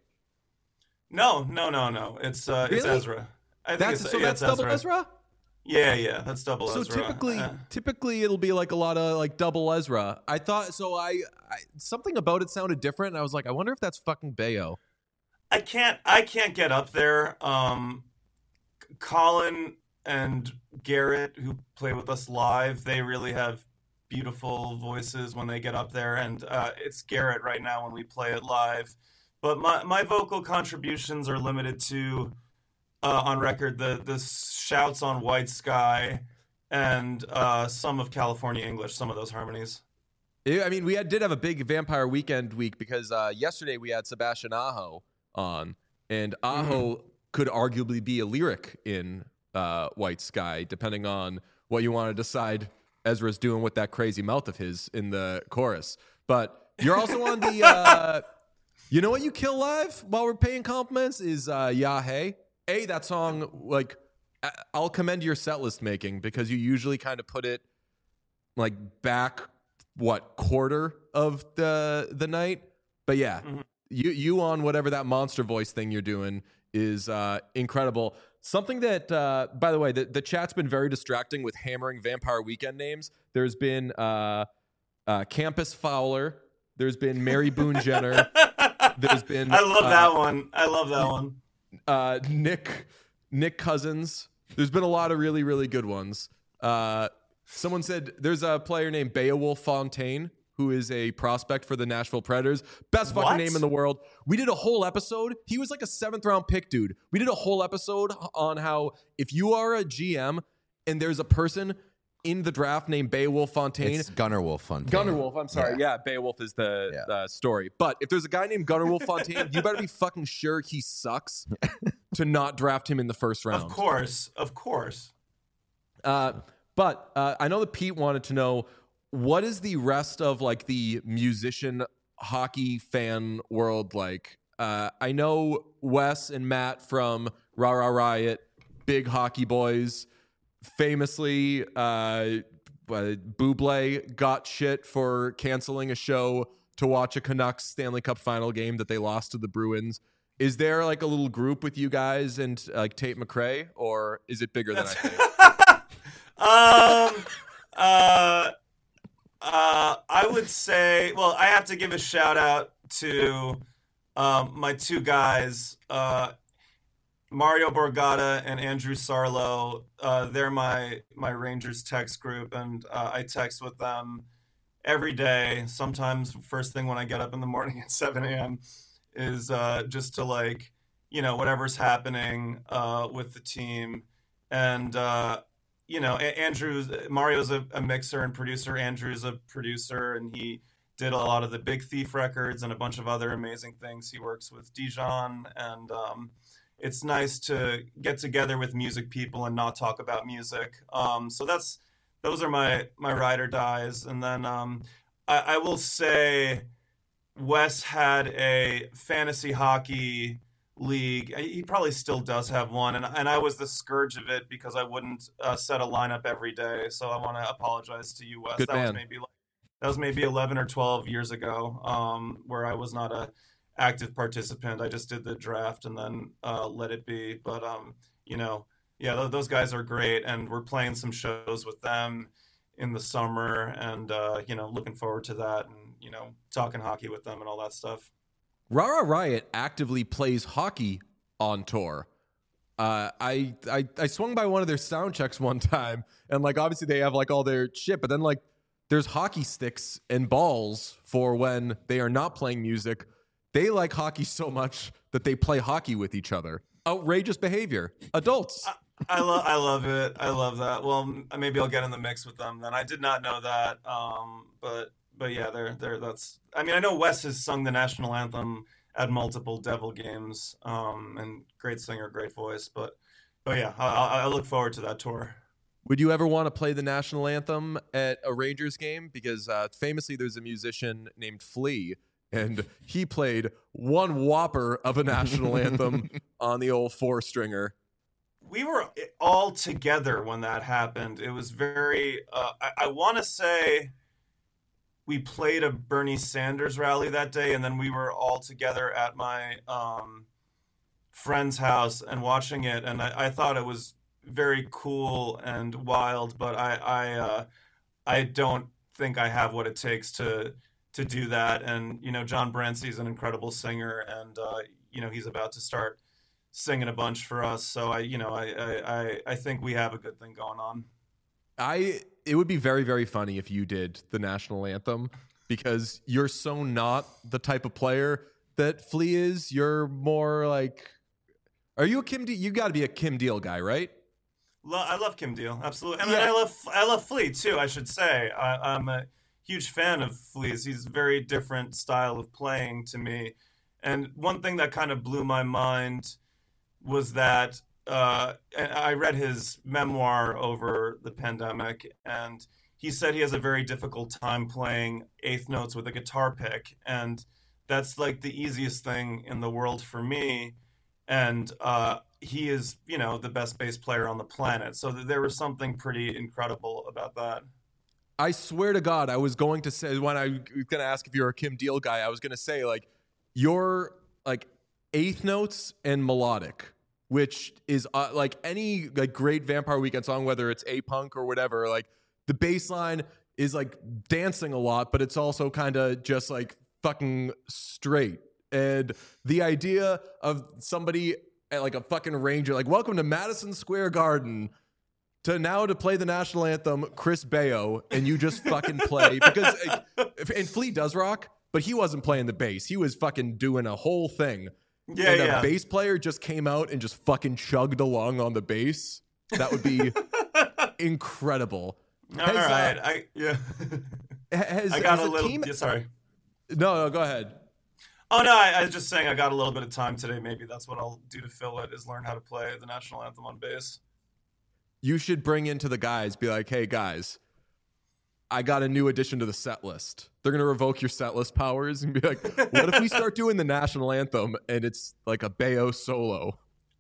No, no, no, no. It's uh, really? it's Ezra. I think that's it's, so yeah, that's it's double Ezra. Ezra. Yeah, yeah, that's double so Ezra. So typically, uh, typically it'll be like a lot of like double Ezra. I thought so. I, I something about it sounded different, and I was like, I wonder if that's fucking Bayo. I can't I can't get up there. Um, Colin and Garrett, who play with us live, they really have beautiful voices when they get up there, and uh, it's Garrett right now when we play it live. But my, my vocal contributions are limited to, uh, on record, the, the shouts on White Sky and uh, some of California English, some of those harmonies. I mean, we had, did have a big Vampire Weekend week because uh, yesterday we had Sebastian Aho on, and Aho mm-hmm. could arguably be a lyric in uh, White Sky, depending on what you want to decide Ezra's doing with that crazy mouth of his in the chorus. But you're also on the, uh, you know what you kill live while we're paying compliments is uh, Ya Hey. A, that song, like, I'll commend your set list making because you usually kind of put it like back, what, quarter of the the night. But yeah. Mm-hmm. You you on whatever that monster voice thing you're doing is uh, incredible. Something that, uh, by the way, the, the chat's been very distracting with hammering Vampire Weekend names. There's been uh, uh, Campus Fowler. There's been Mary Boone Jenner. There's been I love uh, that one. I love that one. Uh, Nick Nick Cousins. There's been a lot of really really good ones. Uh, someone said there's a player named Beowulf Fontaine who is a prospect for the Nashville Predators. Best fucking What? name in the world. We did a whole episode. He was like a seventh round pick, dude. We did a whole episode on how if you are a G M and there's a person in the draft named Beowulf Fontaine. It's Gunnar Wolf Fontaine. Gunnar Wolf, I'm sorry. Yeah. Yeah, Beowulf is the Yeah. uh, story. But if there's a guy named Gunnar Wolf Fontaine, you better be fucking sure he sucks to not draft him in the first round. Of course, of course. Uh, but uh, I know that Pete wanted to know, what is the rest of like the musician hockey fan world like? Uh, I know Wes and Matt from Rah Rah Riot, big hockey boys. Famously, uh, Buble got shit for canceling a show to watch a Canucks Stanley Cup final game that they lost to the Bruins. Is there like a little group with you guys and like Tate McRae, or is it bigger than I think? um, uh, uh, I would say, well, I have to give a shout out to um, my two guys, uh, Mario Borgata and Andrew Sarlo. Uh, they're my my Rangers text group, and uh, I text with them every day. Sometimes first thing when I get up in the morning at seven a.m. is uh, just to like, you know, whatever's happening uh, with the team. And, uh, you know, A- Andrew's, Mario's a, a mixer and producer. Andrew's a producer, and he did a lot of the Big Thief records and a bunch of other amazing things. He works with Dijon, and um, it's nice to get together with music people and not talk about music. Um, so that's, those are my, my ride or dies. And then um, I, I will say, Wes had a fantasy hockey league. He probably still does have one, and and I was the scourge of it because I wouldn't uh, set a lineup every day. So I want to apologize to you, Wes. Good that man. was maybe like, that was maybe eleven or twelve years ago, um, where I was not a active participant. I just did the draft and then uh, let it be. But um, you know, yeah, th- those guys are great, and we're playing some shows with them in the summer, and uh, you know, looking forward to that, and you know, talking hockey with them and all that stuff. Rah Rah Riot actively plays hockey on tour. Uh, I, I I swung by one of their sound checks one time, and like obviously they have like all their shit, but then like there's hockey sticks and balls for when they are not playing music. They like hockey so much that they play hockey with each other. Outrageous behavior. Adults. I love I love it. I love that. Well, m- maybe I'll get in the mix with them then. I did not know that. Um, but but yeah, they're they're that's. I mean, I know Wes has sung the national anthem at multiple Devil games. Um, and great singer, great voice. But but yeah, I, I I look forward to that tour. Would you ever want to play the national anthem at a Rangers game? Because uh, famously, there's a musician named Flea, and he played one whopper of a national anthem on the old four stringer. We were all together when that happened. It was very. Uh, I, I want to say we played a Bernie Sanders rally that day, and then we were all together at my um, friend's house and watching it. And I, I thought it was very cool and wild, but I I, uh, I don't think I have what it takes to to do that. And you know, John Brancy's an incredible singer, and uh, you know, he's about to start singing a bunch for us. So I, you know, I, I, I, I think we have a good thing going on. I it would be very, very funny if you did the national anthem, because you're so not the type of player that Flea is. You're more like, are you a Kim Deal? You got to be a Kim Deal guy, right? Lo- I love Kim Deal, absolutely. I mean, Yeah. I love I love Flea too. I should say I, I'm a huge fan of Flea's. He's a very different style of playing to me. And one thing that kind of blew my mind was that uh, and I read his memoir over the pandemic, and he said he has a very difficult time playing eighth notes with a guitar pick, and that's like the easiest thing in the world for me. And uh, he is, you know, the best bass player on the planet. So th- there was something pretty incredible about that. I swear to God, I was going to say, when I was going to ask if you're a Kim Deal guy, I was going to say, like, you're like eighth notes and melodic, which is uh, like any like great Vampire Weekend song, whether it's A-Punk or whatever, like the bass line is like dancing a lot, but it's also kind of just like fucking straight. And the idea of somebody at like a fucking Ranger, like, welcome to Madison Square Garden, to now to play the national anthem, Chris Bayo, and you just fucking play because and Flea does rock, but he wasn't playing the bass. He was fucking doing a whole thing. Yeah, and yeah. a bass player just came out and just fucking chugged along on the bass. That would be incredible. All has, right, uh, I yeah. has, I got has a little. team... Yeah, sorry. No, no, go ahead. Oh no, I, I was just saying I got a little bit of time today. Maybe that's what I'll do to fill it is learn how to play the national anthem on bass. You should bring into the guys, be like, hey guys, I got a new addition to the set list. They're gonna revoke your set list powers and be like, what if we start doing the national anthem and it's like a Bayo solo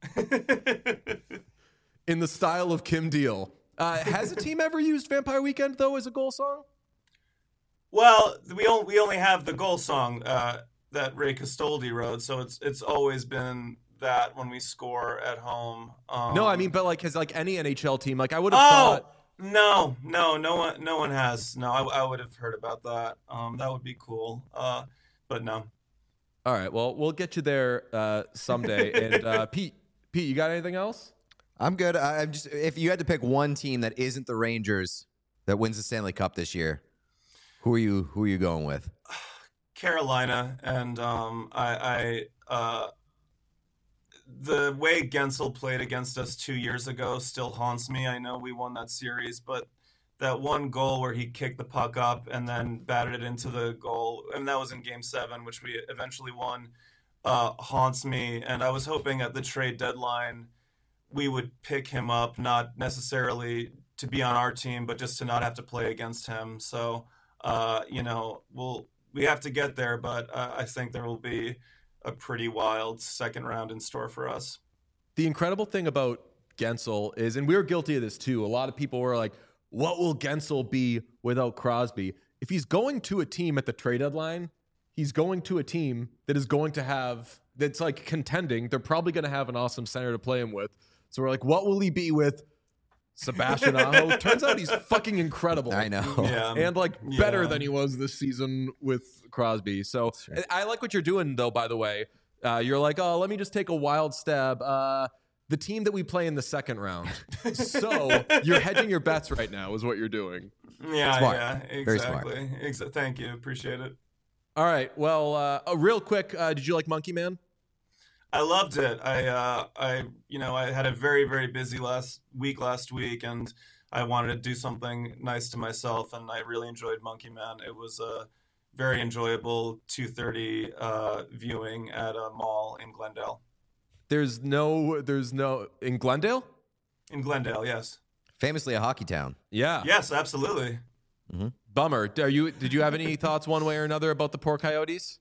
in the style of Kim Deal? Uh, has a team ever used Vampire Weekend though as a goal song? Well, we only we only have the goal song uh, that Ray Castoldi wrote, so it's it's always been that when we score at home. Um, No, I mean, but like, has like any N H L team, like I would have oh thought. no, no, no one, no one has. No, I, I would have heard about that. Um, that would be cool. Uh, but no. All right, well, we'll get you there uh, someday. And uh, Pete, Pete, you got anything else? I'm good. I, I'm just if you had to pick one team that isn't the Rangers that wins the Stanley Cup this year, who are you? Who are you going with? Carolina, and um, I, I uh, the way Gensel played against us two years ago still haunts me. I know we won that series, but that one goal where he kicked the puck up and then batted it into the goal, and that was in Game Seven, which we eventually won, uh, haunts me. And I was hoping at the trade deadline we would pick him up, not necessarily to be on our team, but just to not have to play against him. So, uh, you know, we'll we have to get there, but uh, I think there will be a pretty wild second round in store for us. The incredible thing about Gensel is, and we were guilty of this too, a lot of people were like, what will Gensel be without Crosby? If he's going to a team at the trade deadline, he's going to a team that is going to have, that's like contending. They're probably going to have an awesome center to play him with. So we're like, what will he be with Sebastian Aho? Turns out he's fucking incredible. I know. Yeah. And like better Yeah. than he was this season with Crosby. So right. I like what you're doing though, by the way. Uh, you're like, oh, let me just take a wild stab. Uh, the team that we play in the second round. So you're hedging your bets right now is what you're doing. Yeah, Smart. yeah, Very smart. exactly. Exa- thank you. Appreciate it. All right. Well, uh, uh, real quick, uh, did you like Monkey Man? I loved it. I, uh, I, you know, I had a very, very busy last week last week, and I wanted to do something nice to myself, and I really enjoyed Monkey Man. It was a very enjoyable two thirty uh, viewing at a mall in Glendale. There's no, there's no, in Glendale? In Glendale, yes. Famously a hockey town. Yeah. Yes, absolutely. Bummer. Are you, did you have any thoughts one way or another about the poor Coyotes?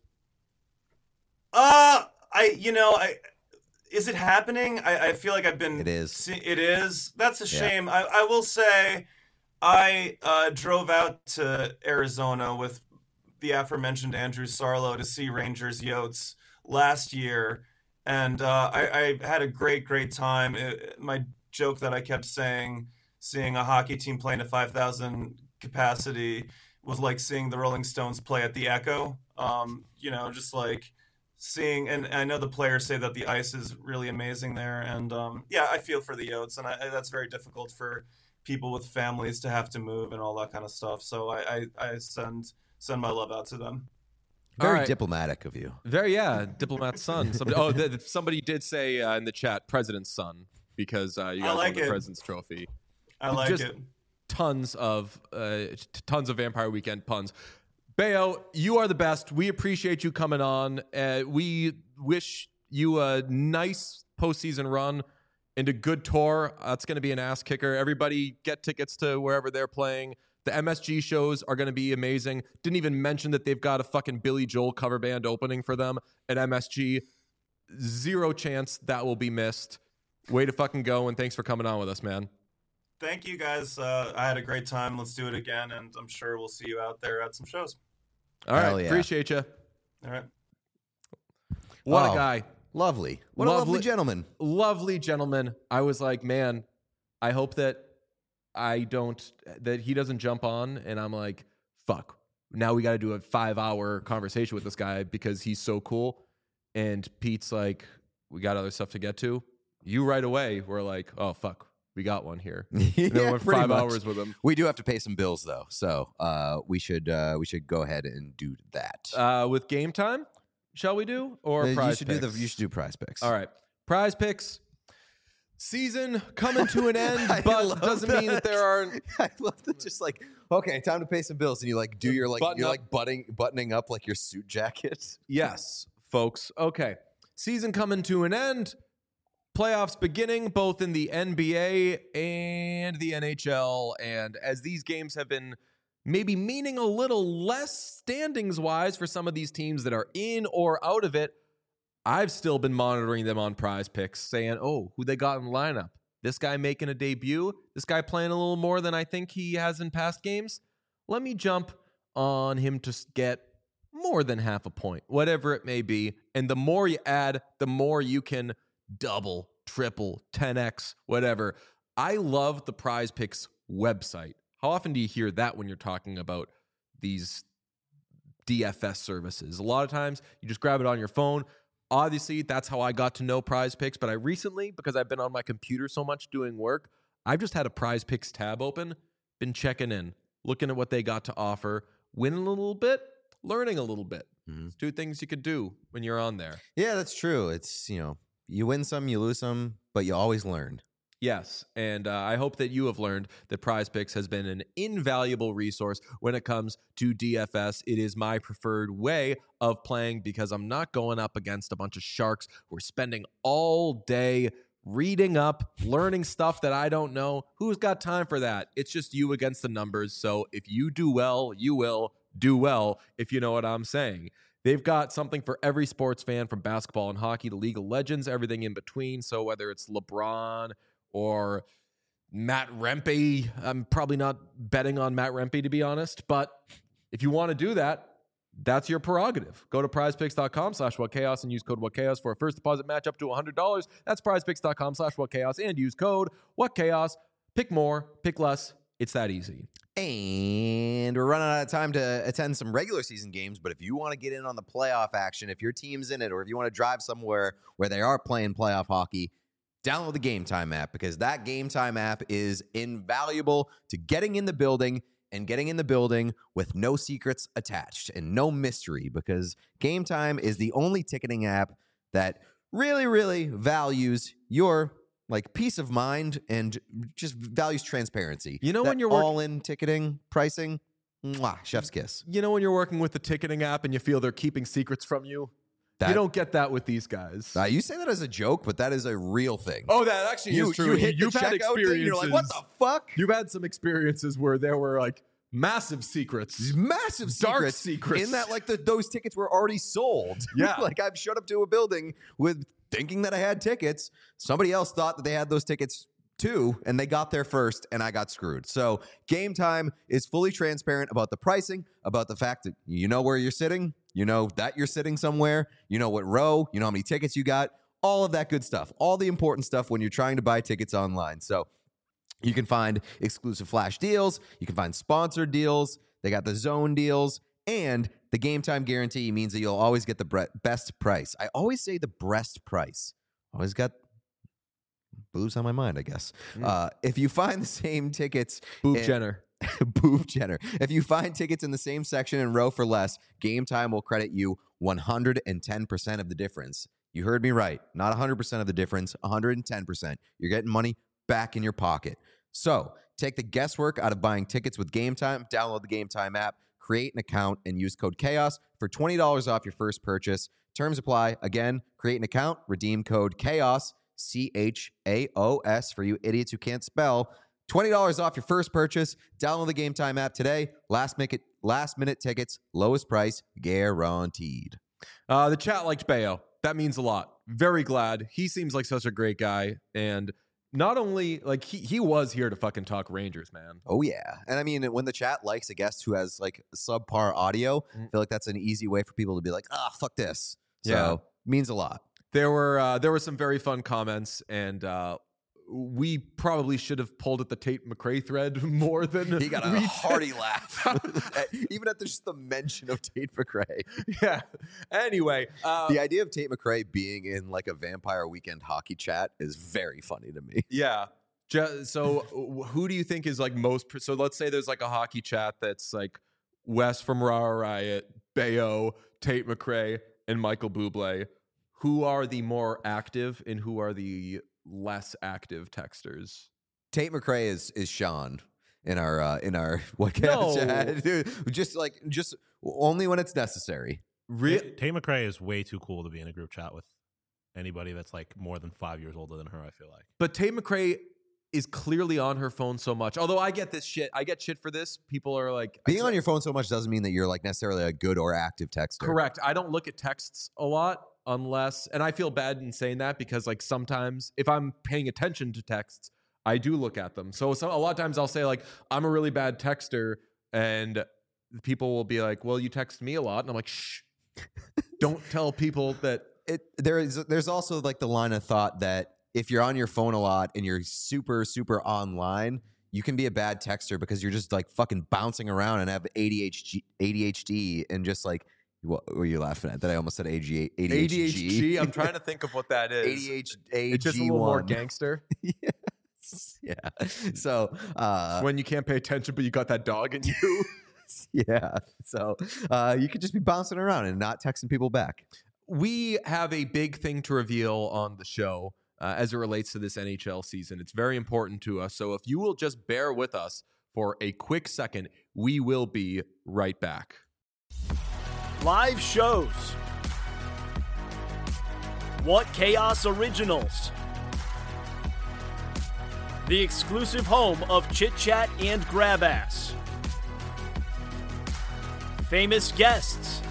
Uh, I, you know, I, is it happening? I, I feel like I've been. It is. See, it is. That's a Yeah. shame. I, I will say, I uh, drove out to Arizona with the aforementioned Andrew Sarlo to see Rangers Yotes last year, and uh, I, I had a great, great time. It, my joke that I kept saying, seeing a hockey team play in a five thousand capacity was like seeing the Rolling Stones play at the Echo. Um, you know, just like seeing, and I know the players say that the ice is really amazing there, and um, yeah, I feel for the Yotes, and I, that's very difficult for people with families to have to move and all that kind of stuff. So I, I, I send send my love out to them. Very All right. diplomatic of you. Very, yeah. Diplomat's son. Somebody, oh, th- th- somebody did say uh, in the chat, president's son, because uh, you I guys like won the it. president's trophy. I like Just- it. Tons of uh, t- tons of Vampire Weekend puns. Bayo, you are the best. We appreciate you coming on. Uh, we wish you a nice postseason run and a good tour. Uh, it's going to be an ass kicker. Everybody get tickets to wherever they're playing. The M S G shows are going to be amazing. Didn't even mention that they've got a fucking Billy Joel cover band opening for them at M S G. Zero chance that will be missed. Way to fucking go, and thanks for coming on with us, man. Thank you guys. Uh, I had a great time. Let's do it again, and I'm sure we'll see you out there at some shows. All right, Hell yeah. appreciate you. All right. What Oh. a guy. Lovely. What a lovely Lovely- gentleman. Lovely gentleman. I was like, man, I hope that I don't, that he doesn't jump on and I'm like, fuck, now we got to do a five hour conversation with this guy because he's so cool. And Pete's like, we got other stuff to get to. You right away were like, oh, fuck, we got one here. yeah, And then went pretty five much. hours with him. We do have to pay some bills though, so uh, we should uh, we should go ahead and do that. Uh, with game time, shall we do or Uh, prize you should picks? do the you should do prize picks. All right, prize picks. Season coming to an end, I but love doesn't mean that there aren't. I love that. Just like okay, time to pay some bills, and you like do your like Button you're up. like buttoning buttoning up like your suit jacket. Yes, folks. Okay, season coming to an end. Playoffs beginning both in the N B A and the N H L, and as these games have been maybe meaning a little less standings wise for some of these teams that are in or out of it, I've still been monitoring them on Prize Picks, saying, oh, who they got in the lineup. This guy making a debut. This guy playing a little more than I think he has in past games. Let me jump on him to get more than half a point, whatever it may be. And the more you add, the more you can double, triple, ten X, whatever. I love the Prize Picks website. How often do you hear that when you're talking about these D F S services? A lot of times you just grab it on your phone. Obviously, that's how I got to know Prize Picks, but I recently, because I've been on my computer so much doing work, I've just had a Prize Picks tab open, been checking in, looking at what they got to offer, winning a little bit, learning a little bit. Mhm. It's two things you could do when you're on there. Yeah, that's true. It's you know you win some, you lose some, but you always learn. Yes, and uh, I hope that you have learned that Prize Picks has been an invaluable resource when it comes to D F S. It is my preferred way of playing because I'm not going up against a bunch of sharks who are spending all day reading up, learning stuff that I don't know. Who's got time for that? It's just you against the numbers. So if you do well, you will do well, if you know what I'm saying. They've got something for every sports fan, from basketball and hockey to League of Legends, everything in between. So whether it's LeBron or Matt Rempe, I'm probably not betting on Matt Rempe, to be honest. But if you want to do that, that's your prerogative. Go to prizepicks.com slash whatchaos and use code whatchaos for a first deposit match up to one hundred dollars. That's prizepicks.com slash whatchaos and use code whatchaos. Pick more, pick less. It's that easy. And we're running out of time to attend some regular season games, but if you want to get in on the playoff action, if your team's in it, or if you want to drive somewhere where they are playing playoff hockey, download the Game Time app, because that Game Time app is invaluable to getting in the building and getting in the building with no secrets attached and no mystery, because Game Time is the only ticketing app that really, really values your like peace of mind and just values transparency. You know That when you're work- all-in ticketing pricing, mwah, chef's kiss. You know when you're working with the ticketing app and you feel they're keeping secrets from you? That, you don't get that with these guys. Uh, you say that as a joke, but that is a real thing. Oh, that actually you, is true. you hit You've the had checkout thing, experiences. you're like, what the fuck? You've had some experiences where there were like massive secrets. These massive Dark secrets, secrets. in that like the, those tickets were already sold. Yeah. Like I've showed up to a building with thinking that I had tickets. Somebody else thought that they had those tickets too, and they got there first, and I got screwed. So Game Time is fully transparent about the pricing, about the fact that you know where you're sitting, you know that you're sitting somewhere, you know what row, you know how many tickets you got, all of that good stuff, all the important stuff when you're trying to buy tickets online. So you can find exclusive flash deals, you can find sponsored deals, they got the zone deals, and the Game Time guarantee means that you'll always get the bre- best price. I always say the breast price. Always got boobs on my mind, I guess. Mm. Uh, if you find the same tickets, Boob in- Jenner. Boob Jenner. If you find tickets in the same section and row for less, Game Time will credit you one hundred ten percent of the difference. You heard me right. Not one hundred percent of the difference, one hundred ten percent. You're getting money back in your pocket. So take the guesswork out of buying tickets with Game Time. Download the Game Time app, create an account, and use code CHAOS for twenty dollars off your first purchase. Terms apply. Again, create an account, redeem code CHAOS, C H A O S, for you idiots who can't spell. twenty dollars off your first purchase. Download the Game Time app today. Last minute, last minute tickets, lowest price guaranteed. Uh, the chat liked Bayo. That means a lot. Very glad. He seems like such a great guy. And not only, like, he, he was here to fucking talk Rangers, man. Oh, yeah. And I mean, when the chat likes a guest who has like subpar audio, I feel like that's an easy way for people to be like, ah, fuck this. So, Yeah. means a lot. There were uh, there were some very fun comments, and uh, we probably should have pulled at the Tate McRae thread more than He got a we hearty did. laugh, even at the, just the mention of Tate McRae. Yeah. Anyway, uh, The idea of Tate McRae being in like a Vampire Weekend hockey chat is very funny to me. yeah. Ju- so w- who do you think is like most? Pr- so let's say there's like a hockey chat that's like Wes from Raw Riot, Bayo, Tate McRae, and Michael Bublé. Who are the more active and who are the less active texters? Tate McRae is is Sean in our uh, in our what No. chat. Dude, just like just only when it's necessary. Re- Tate Tate McRae is way too cool to be in a group chat with anybody that's like more than five years older than her, I feel like. But Tate McRae is clearly on her phone so much. Although I get this shit. I get shit for this. People are like... Being on your phone so much doesn't mean that you're like necessarily a good or active texter. Correct. I don't look at texts a lot unless... And I feel bad in saying that because like sometimes if I'm paying attention to texts, I do look at them. So, so a lot of times I'll say like, I'm a really bad texter and people will be like, well, you text me a lot. And I'm like, shh. Don't tell people that... It there is there's also like the line of thought that if you're on your phone a lot and you're super super online, you can be a bad texter because you're just like fucking bouncing around and have A D H D A D H D and just like what were you laughing at? That I almost said A D H D. A D H D. I'm trying to think of what that is. A D H D. It's just a little more gangster. Yes. Yeah. So uh, When you can't pay attention, but you got that dog in you. yeah. So uh, you could just be bouncing around and not texting people back. We have a big thing to reveal on the show uh, as it relates to this N H L season. It's very important to us. So if you will just bear with us for a quick second, we will be right back. Live shows. What Chaos Originals. The exclusive home of Chit Chat and Grab Ass. Famous guests.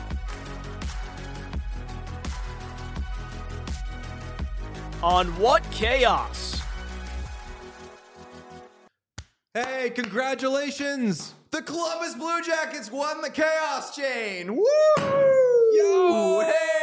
On What Chaos? Hey, congratulations! The Columbus Blue Jackets won the Chaos Chain. Woo! Yo!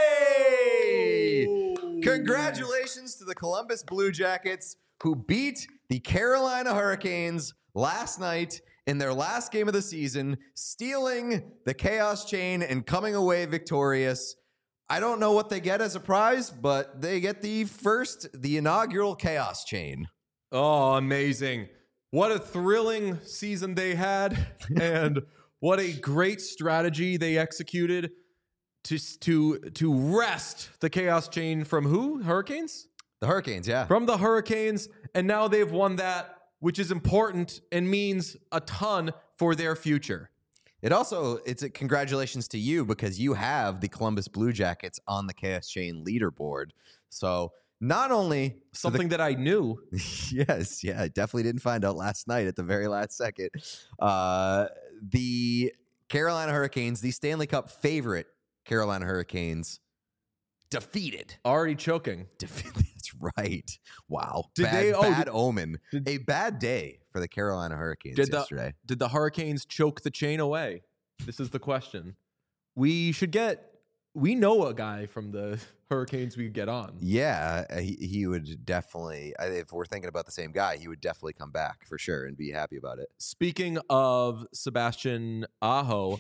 Hey! Congratulations to the Columbus Blue Jackets who beat the Carolina Hurricanes last night in their last game of the season, stealing the Chaos Chain and coming away victorious. I don't know what they get as a prize, but they get the first, the inaugural Chaos Chain. Oh, amazing. What a thrilling season they had, and what a great strategy they executed to, to, to wrest the Chaos Chain from who? Hurricanes? The Hurricanes, yeah. From the Hurricanes, and now they've won that, which is important and means a ton for their future. It also, it's a congratulations to you because you have the Columbus Blue Jackets on the Chaos Chain leaderboard. So not only Something that I knew. yes, yeah, I definitely didn't find out last night at the very last second. Uh, the Carolina Hurricanes, the Stanley Cup favorite Carolina Hurricanes, defeated. Already choking. Defeated. That's right. Wow. Did bad, they- oh, bad did- omen. did- a bad day for the Carolina Hurricanes Did the- yesterday. Did the Hurricanes choke the chain away? This is the question. We should get, we know a guy from the Hurricanes we could get on. Yeah, uh, he, he would definitely, I- if we're thinking about the same guy, he would definitely come back for sure and be happy about it. Speaking of Sebastian Aho,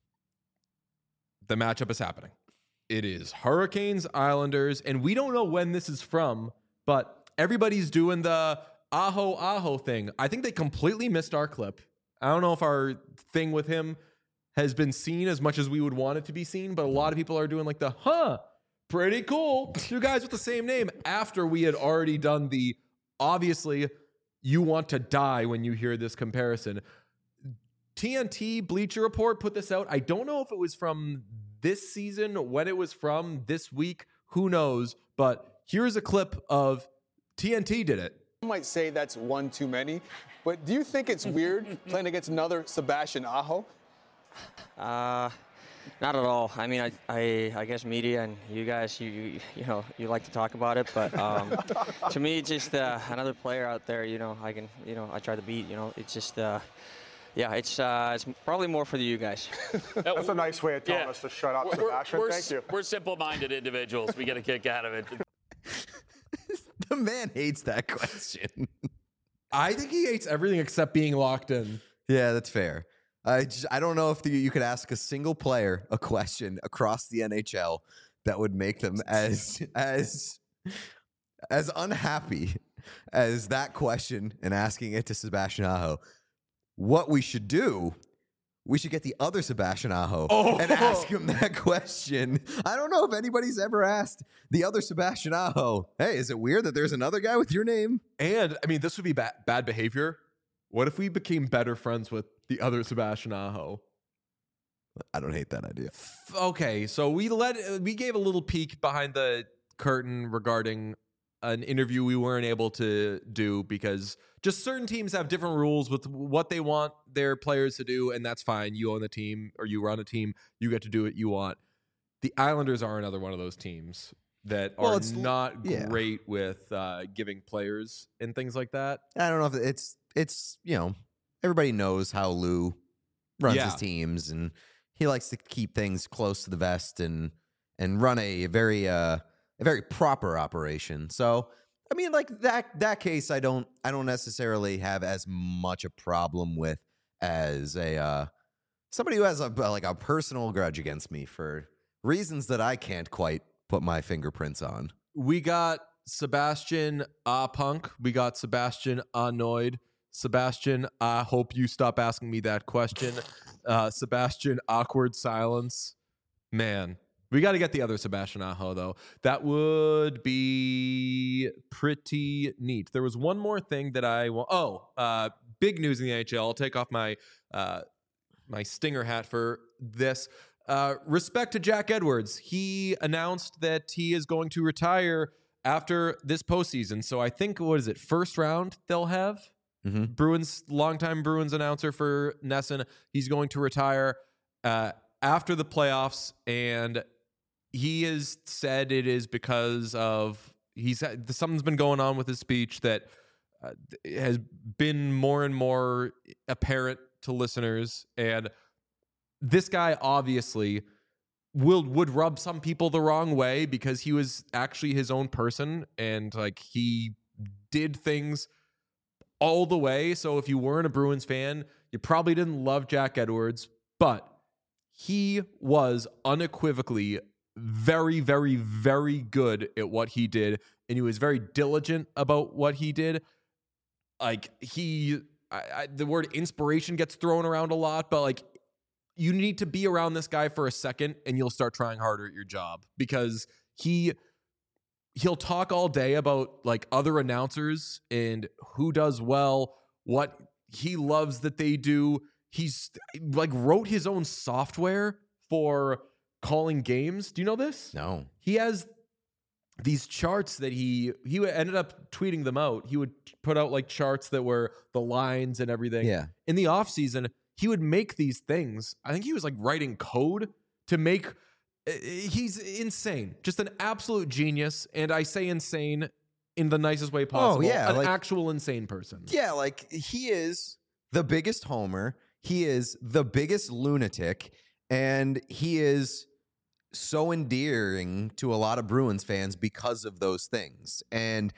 the matchup is happening. It is Hurricanes, Islanders, and we don't know when this is from, but everybody's doing the Aho Aho thing. I think they completely missed our clip. I don't know if our thing with him has been seen as much as we would want it to be seen, but a lot of people are doing like the, huh, pretty cool. Two guys with the same name after we had already done the, obviously, you want to die when you hear this comparison. T N T Bleacher Report put this out. I don't know if it was from this season, when it was from, this week, who knows? But here's a clip of T N T did it. I might say that's one too many, but do you think it's weird playing against another Sebastian Aho? Uh, not at all. I mean, I, I, I guess media and you guys, you, you, you know, you like to talk about it, but um, to me, just uh, another player out there. You know, I can, you know, I try to beat. You know, it's just, uh, yeah, it's, uh, it's probably more for you guys. That's a nice way of telling Yeah. us to shut up, We're, Sebastian. we're, Thank you. we're simple-minded individuals. We get a kick out of it. The man hates that question. I think he hates everything except being locked in. Yeah, that's fair. I just, I don't know if the, you could ask a single player a question across the N H L that would make them as as as unhappy as that question and asking it to Sebastian Aho. What we should do, we should get the other Sebastian Aho Oh. and ask him that question. I don't know if anybody's ever asked the other Sebastian Aho, hey, is it weird that there's another guy with your name? And I mean, this would be ba- bad behavior. What if we became better friends with the other Sebastian Aho? I don't hate that idea. Okay, so we let we gave a little peek behind the curtain regarding an interview we weren't able to do because just certain teams have different rules with what they want their players to do, and that's fine. You own the team or you run a team, you get to do what you want. The Islanders are another one of those teams that Well, are it's- not yeah. great with uh, giving players and things like that. I don't know if it's, it's you know, everybody knows how Lou runs Yeah. his teams, and he likes to keep things close to the vest and and run a very uh, a very proper operation. So, I mean, like that that case, I don't I don't necessarily have as much a problem with as a uh, somebody who has a like a personal grudge against me for reasons that I can't quite put my fingerprints on. We got Sebastian Ah Punk. We got Sebastian Annoyed. Sebastian, I hope you stop asking me that question. Uh, Sebastian Awkward Silence. Man, we got to get the other Sebastian Aho, though. That would be pretty neat. There was one more thing that I want. Oh, uh, big news in the N H L. I'll take off my uh, my Stinger hat for this. Uh, respect to Jack Edwards. He announced that he is going to retire after this postseason. So I think, what is it, first round they'll have? Mm-hmm. Bruins, longtime Bruins announcer for Nesson. He's going to retire uh, after the playoffs, and he has said it is because of he's something's been going on with his speech that uh, has been more and more apparent to listeners, and this guy obviously will would rub some people the wrong way because he was actually his own person, and like he did things all the way. So if you weren't a Bruins fan, you probably didn't love Jack Edwards, but he was unequivocally very, very, very good at what he did. And he was very diligent about what he did. Like he, I, I, the word inspiration gets thrown around a lot, but like you need to be around this guy for a second and you'll start trying harder at your job because he, he'll talk all day about like other announcers and who does well, what he loves that they do. He's like wrote his own software for calling games. Do you know this? No. He has these charts that he he ended up tweeting them out. He would put out like charts that were the lines and everything. Yeah. In the off season, he would make these things. I think he was like writing code to make he's insane. Just an absolute genius. And I say insane in the nicest way possible. Oh, yeah, An like- actual insane person. Yeah, like he is the biggest homer. He is the biggest lunatic, and he is so endearing to a lot of Bruins fans because of those things. And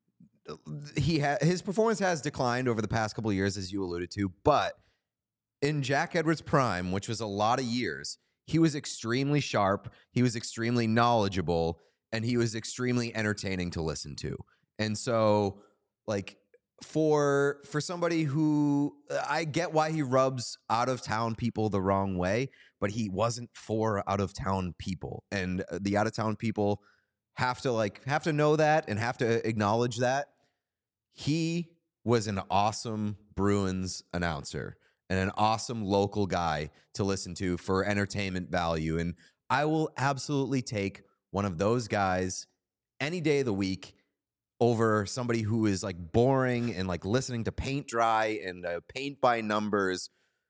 he ha- his performance has declined over the past couple of years, as you alluded to, but in Jack Edwards' prime, which was a lot of years, he was extremely sharp, he was extremely knowledgeable, and he was extremely entertaining to listen to. And so, like, for for somebody who I get why he rubs out of town people the wrong way, but he wasn't for out of town people, and the out of town people have to like have to know that and have to acknowledge that he was an awesome Bruins announcer and an awesome local guy to listen to for entertainment value. And I will absolutely take one of those guys any day of the week over somebody who is like boring and like listening to paint dry and uh, paint by numbers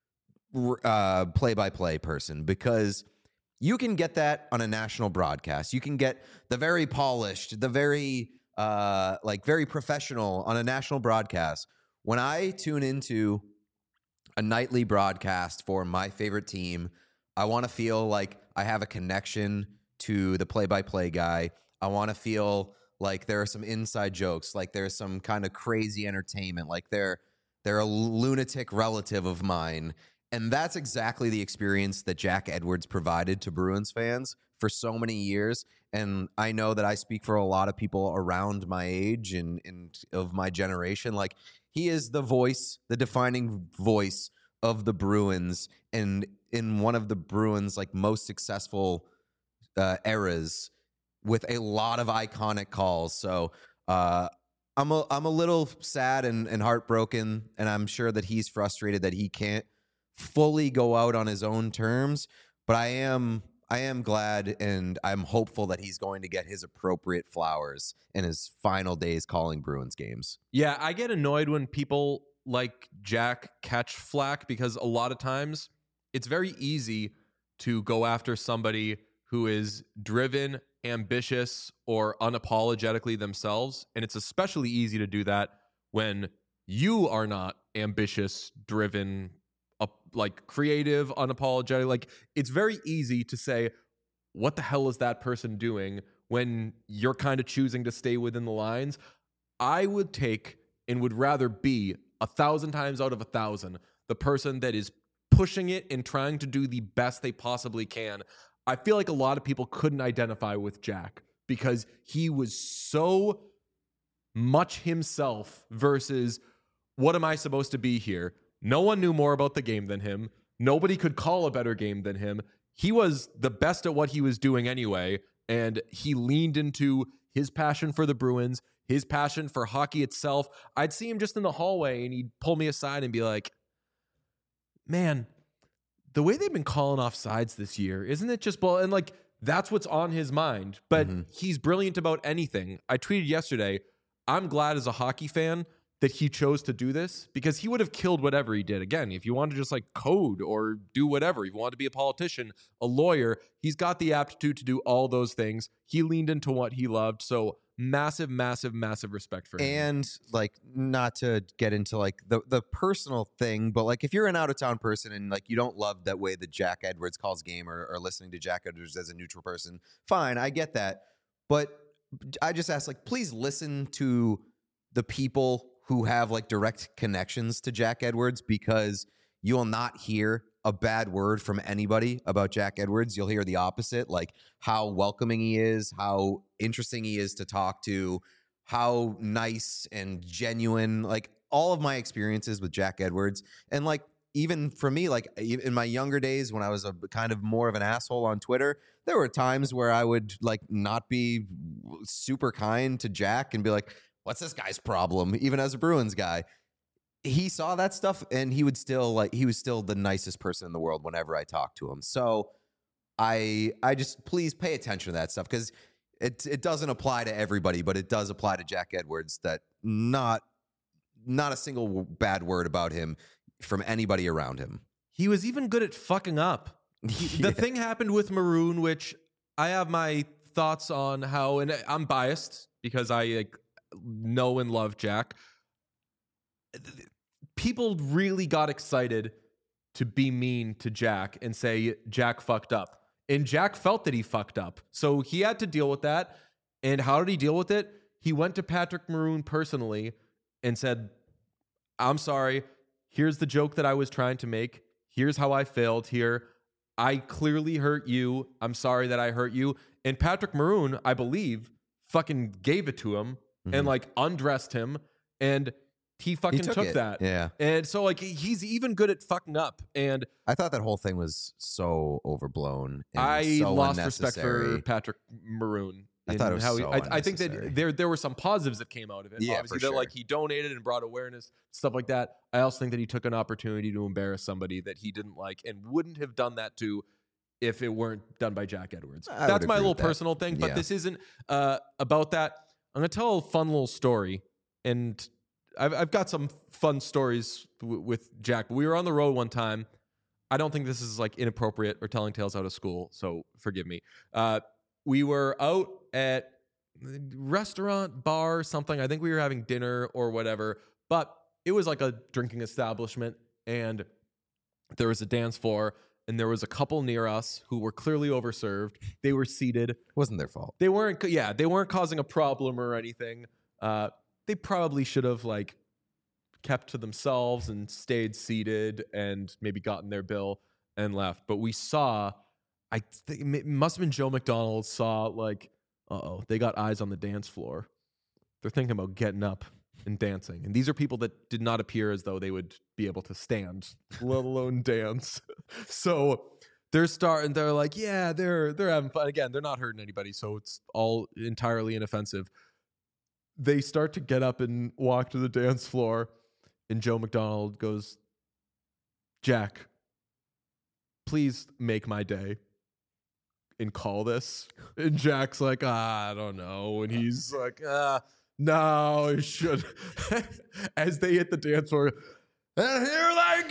uh, play-by-play person, because you can get that on a national broadcast. You can get the very polished, the very uh, like very professional on a national broadcast. When I tune into a nightly broadcast for my favorite team, I want to feel like I have a connection to the play-by-play guy. I want to feel like there are some inside jokes, like there's some kind of crazy entertainment, like they're they're a lunatic relative of mine. And that's exactly the experience that Jack Edwards provided to Bruins fans for so many years. And I know that I speak for a lot of people around my age and, and of my generation. Like, he is the voice, the defining voice of the Bruins, and in one of the Bruins' like most successful uh, eras, with a lot of iconic calls. So uh, I'm a I'm a little sad and, and heartbroken, and I'm sure that he's frustrated that he can't fully go out on his own terms. But I am I am glad and I'm hopeful that he's going to get his appropriate flowers in his final days calling Bruins games. Yeah, I get annoyed when people like Jack catch flack, because a lot of times it's very easy to go after somebody who is driven, ambitious, or unapologetically themselves. And it's especially easy to do that when you are not ambitious, driven, uh, like creative, unapologetic. Like, it's very easy to say, what the hell is that person doing, when you're kind of choosing to stay within the lines. I would take and would rather be a thousand times out of a thousand the person that is pushing it and trying to do the best they possibly can. I feel like a lot of people couldn't identify with Jack because he was so much himself versus, what am I supposed to be here? No one knew more about the game than him. Nobody could call a better game than him. He was the best at what he was doing anyway, and he leaned into his passion for the Bruins, his passion for hockey itself. I'd see him just in the hallway, and he'd pull me aside and be like, man, the way they've been calling off sides this year, isn't it just bull? And like, that's what's on his mind. But mm-hmm. he's brilliant about anything. I tweeted yesterday, I'm glad as a hockey fan that he chose to do this, because he would have killed whatever he did. Again, if you want to just like code or do whatever, if you want to be a politician, a lawyer, he's got the aptitude to do all those things. He leaned into what he loved. So massive, massive, massive respect for him. And like, not to get into like the, the personal thing, but like, if you're an out of town person and like, you don't love that way that Jack Edwards calls game, or, or listening to Jack Edwards as a neutral person, fine, I get that. But I just ask, like, please listen to the people who have like direct connections to Jack Edwards, because you will not hear a bad word from anybody about Jack Edwards. You'll hear the opposite, like how welcoming he is, how interesting he is to talk to, how nice and genuine, like all of my experiences with Jack Edwards. And like, even for me, like in my younger days when I was a kind of more of an asshole on Twitter, there were times where I would like not be super kind to Jack and be like, what's this guy's problem? Even as a Bruins guy, he saw that stuff and he would still like, he was still the nicest person in the world whenever I talked to him. So I, I just, please pay attention to that stuff, because it, it doesn't apply to everybody, but it does apply to Jack Edwards, that not, not a single bad word about him from anybody around him. He was even good at fucking up. He, yeah. The thing happened with Maroon, which I have my thoughts on how, and I'm biased because I like, know and love Jack. People really got excited to be mean to Jack and say Jack fucked up. And Jack felt that he fucked up. So he had to deal with that. And how did he deal with it? He went to Patrick Maroon personally and said, I'm sorry. Here's the joke that I was trying to make. Here's how I failed here. I clearly hurt you. I'm sorry that I hurt you. And Patrick Maroon, I believe, fucking gave it to him. Mm-hmm. And like undressed him, and he fucking he took, took it. that. Yeah. And so like, he's even good at fucking up. And I thought that whole thing was so overblown. And I so lost respect unnecessary. for Patrick Maroon. I thought it was how so he, I, I think that there there were some positives that came out of it. Yeah, Obviously, for that sure. like he donated and brought awareness, stuff like that. I also think that he took an opportunity to embarrass somebody that he didn't like and wouldn't have done that to if it weren't done by Jack Edwards. I That's would my agree little with that. personal thing, but Yeah. this isn't uh, about that. I'm going to tell a fun little story, and I've, I've got some fun stories w- with Jack. We were on the road one time. I don't think this is like inappropriate or telling tales out of school, so forgive me. Uh, we were out at restaurant, bar, something. I think we were having dinner or whatever, but it was like a drinking establishment, and there was a dance floor, and there was a couple near us who were clearly overserved. They were seated. It wasn't their fault. They weren't, yeah, they weren't causing a problem or anything. Uh, they probably should have like kept to themselves and stayed seated and maybe gotten their bill and left. But we saw, I think it must have been Joe McDonald saw like, uh-oh, they got eyes on the dance floor. They're thinking about getting up and dancing. And these are people that did not appear as though they would be able to stand, let alone dance. So they're starting, they're like, yeah, they're they're having fun. Again, they're not hurting anybody, so it's all entirely inoffensive. They start to get up and walk to the dance floor, and Joe McDonald goes, Jack, please make my day and call this. And Jack's like, ah, I don't know. And he's like, ah, no, it should. As they hit the dance floor, and here they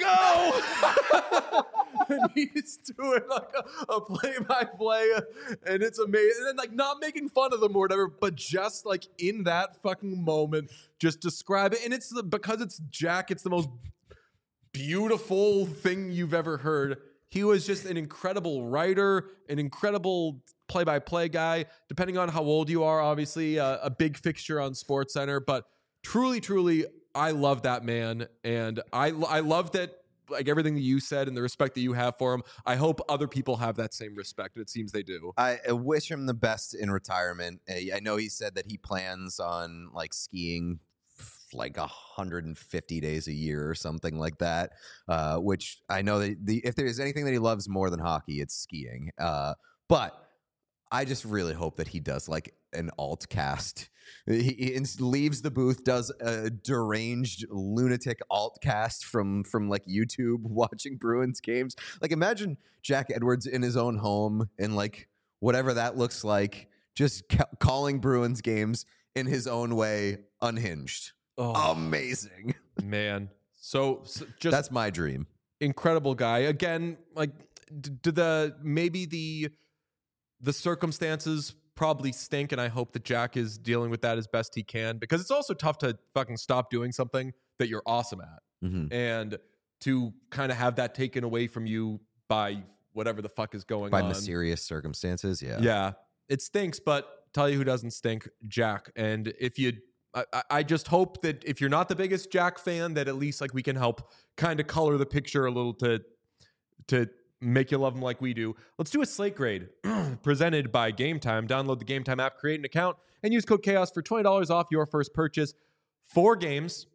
go. And he's doing like a, a play-by-play, and it's amazing. And like not making fun of them or whatever, but just like in that fucking moment, just describe it. And it's the, because it's Jack, it's the most beautiful thing you've ever heard. He was just an incredible writer, an incredible play-by-play guy. Depending on how old you are, obviously uh, a big fixture on SportsCenter. But truly, truly, I love that man, and I I love that. Like everything that you said and the respect that you have for him, I hope other people have that same respect. It seems they do. I, I wish him the best in retirement. I, I know he said that he plans on like skiing like one hundred fifty days a year or something like that, uh, which I know that the, if there's anything that he loves more than hockey, it's skiing. Uh, but I just really hope that he does like an alt cast. He, he leaves the booth, does a deranged lunatic alt cast from from like YouTube watching Bruins games. Like imagine Jack Edwards in his own home and like whatever that looks like, just ca- calling Bruins games in his own way, unhinged. Oh, amazing, man. So, so just that's my dream. Incredible guy. Again, like d- do the maybe the the circumstances probably stink, and I hope that Jack is dealing with that as best he can, because it's also tough to fucking stop doing something that you're awesome at, mm-hmm. and to kind of have that taken away from you by whatever the fuck is going by on. By mysterious circumstances, yeah. Yeah. It stinks, but tell you who doesn't stink, Jack. And if you, I, I just hope that if you're not the biggest Jack fan, that at least like we can help kind of color the picture a little to, to, make you love them like we do. Let's do a slate grade presented by Game Time. Download the Game Time app, create an account, and use code Chaos for twenty dollars off your first purchase. Four games.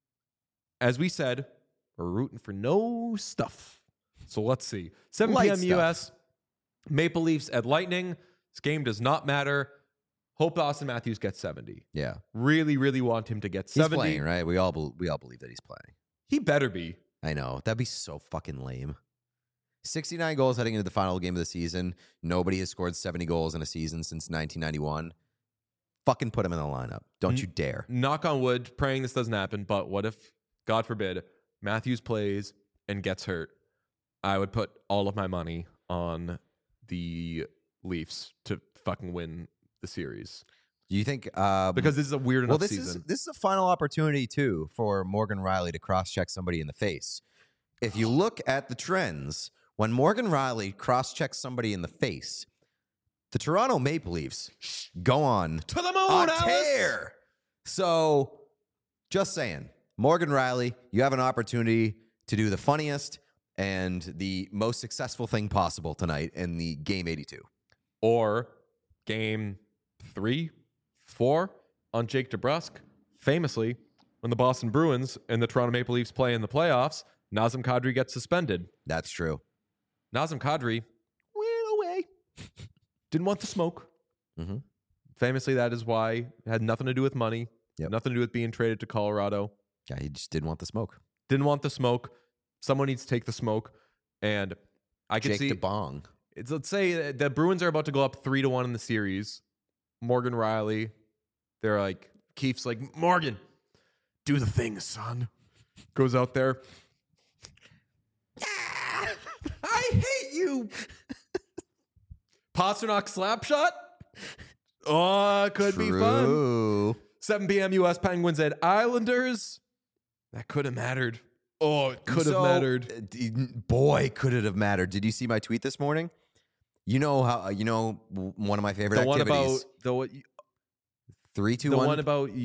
As we said, we're rooting for no stuff. So let's see. seven p.m. U S. Maple Leafs at Lightning. This game does not matter. Hope Auston Matthews gets seventy. Yeah. Really, really want him to get seventy. He's playing, right? We all, be- we all believe that he's playing. He better be. I know. That'd be so fucking lame. sixty-nine goals heading into the final game of the season. Nobody has scored seventy goals in a season since nineteen ninety-one. Fucking put him in the lineup. Don't N- you dare. Knock on wood, praying this doesn't happen, but what if, God forbid, Matthews plays and gets hurt? I would put all of my money on the Leafs to fucking win the series. Do you think... Um, because this is a weird enough well, this season. Is, this is a final opportunity, too, for Morgan Rielly to cross-check somebody in the face. If you look at the trends... When Morgan Rielly cross-checks somebody in the face, the Toronto Maple Leafs go on to the moon, a Alice. tear. So, just saying, Morgan Rielly, you have an opportunity to do the funniest and the most successful thing possible tonight in the Game eighty-two. Or Game three, four on Jake DeBrusk. Famously, when the Boston Bruins and the Toronto Maple Leafs play in the playoffs, Nazem Kadri gets suspended. That's true. Nazem Kadri went away. Didn't want the smoke. Mm-hmm. Famously, that is why it had nothing to do with money. Yep. Nothing to do with being traded to Colorado. Yeah, he just didn't want the smoke. Didn't want the smoke. Someone needs to take the smoke. And I can Jake see... DeBong. It's, let's say the Bruins are about to go up three to one in the series. Morgan Rielly, they're like... Keefe's like, Morgan, do the thing, son. Goes out there... I hate you. Pasternak slap shot. Oh, could True. be fun. seven p.m. U S Penguins at Islanders. That could have mattered. Oh, it could have so, mattered. Uh, boy, could it have mattered. Did you see my tweet this morning? You know how, you know, one of my favorite the one activities. about the what? Three, two, the one. one about you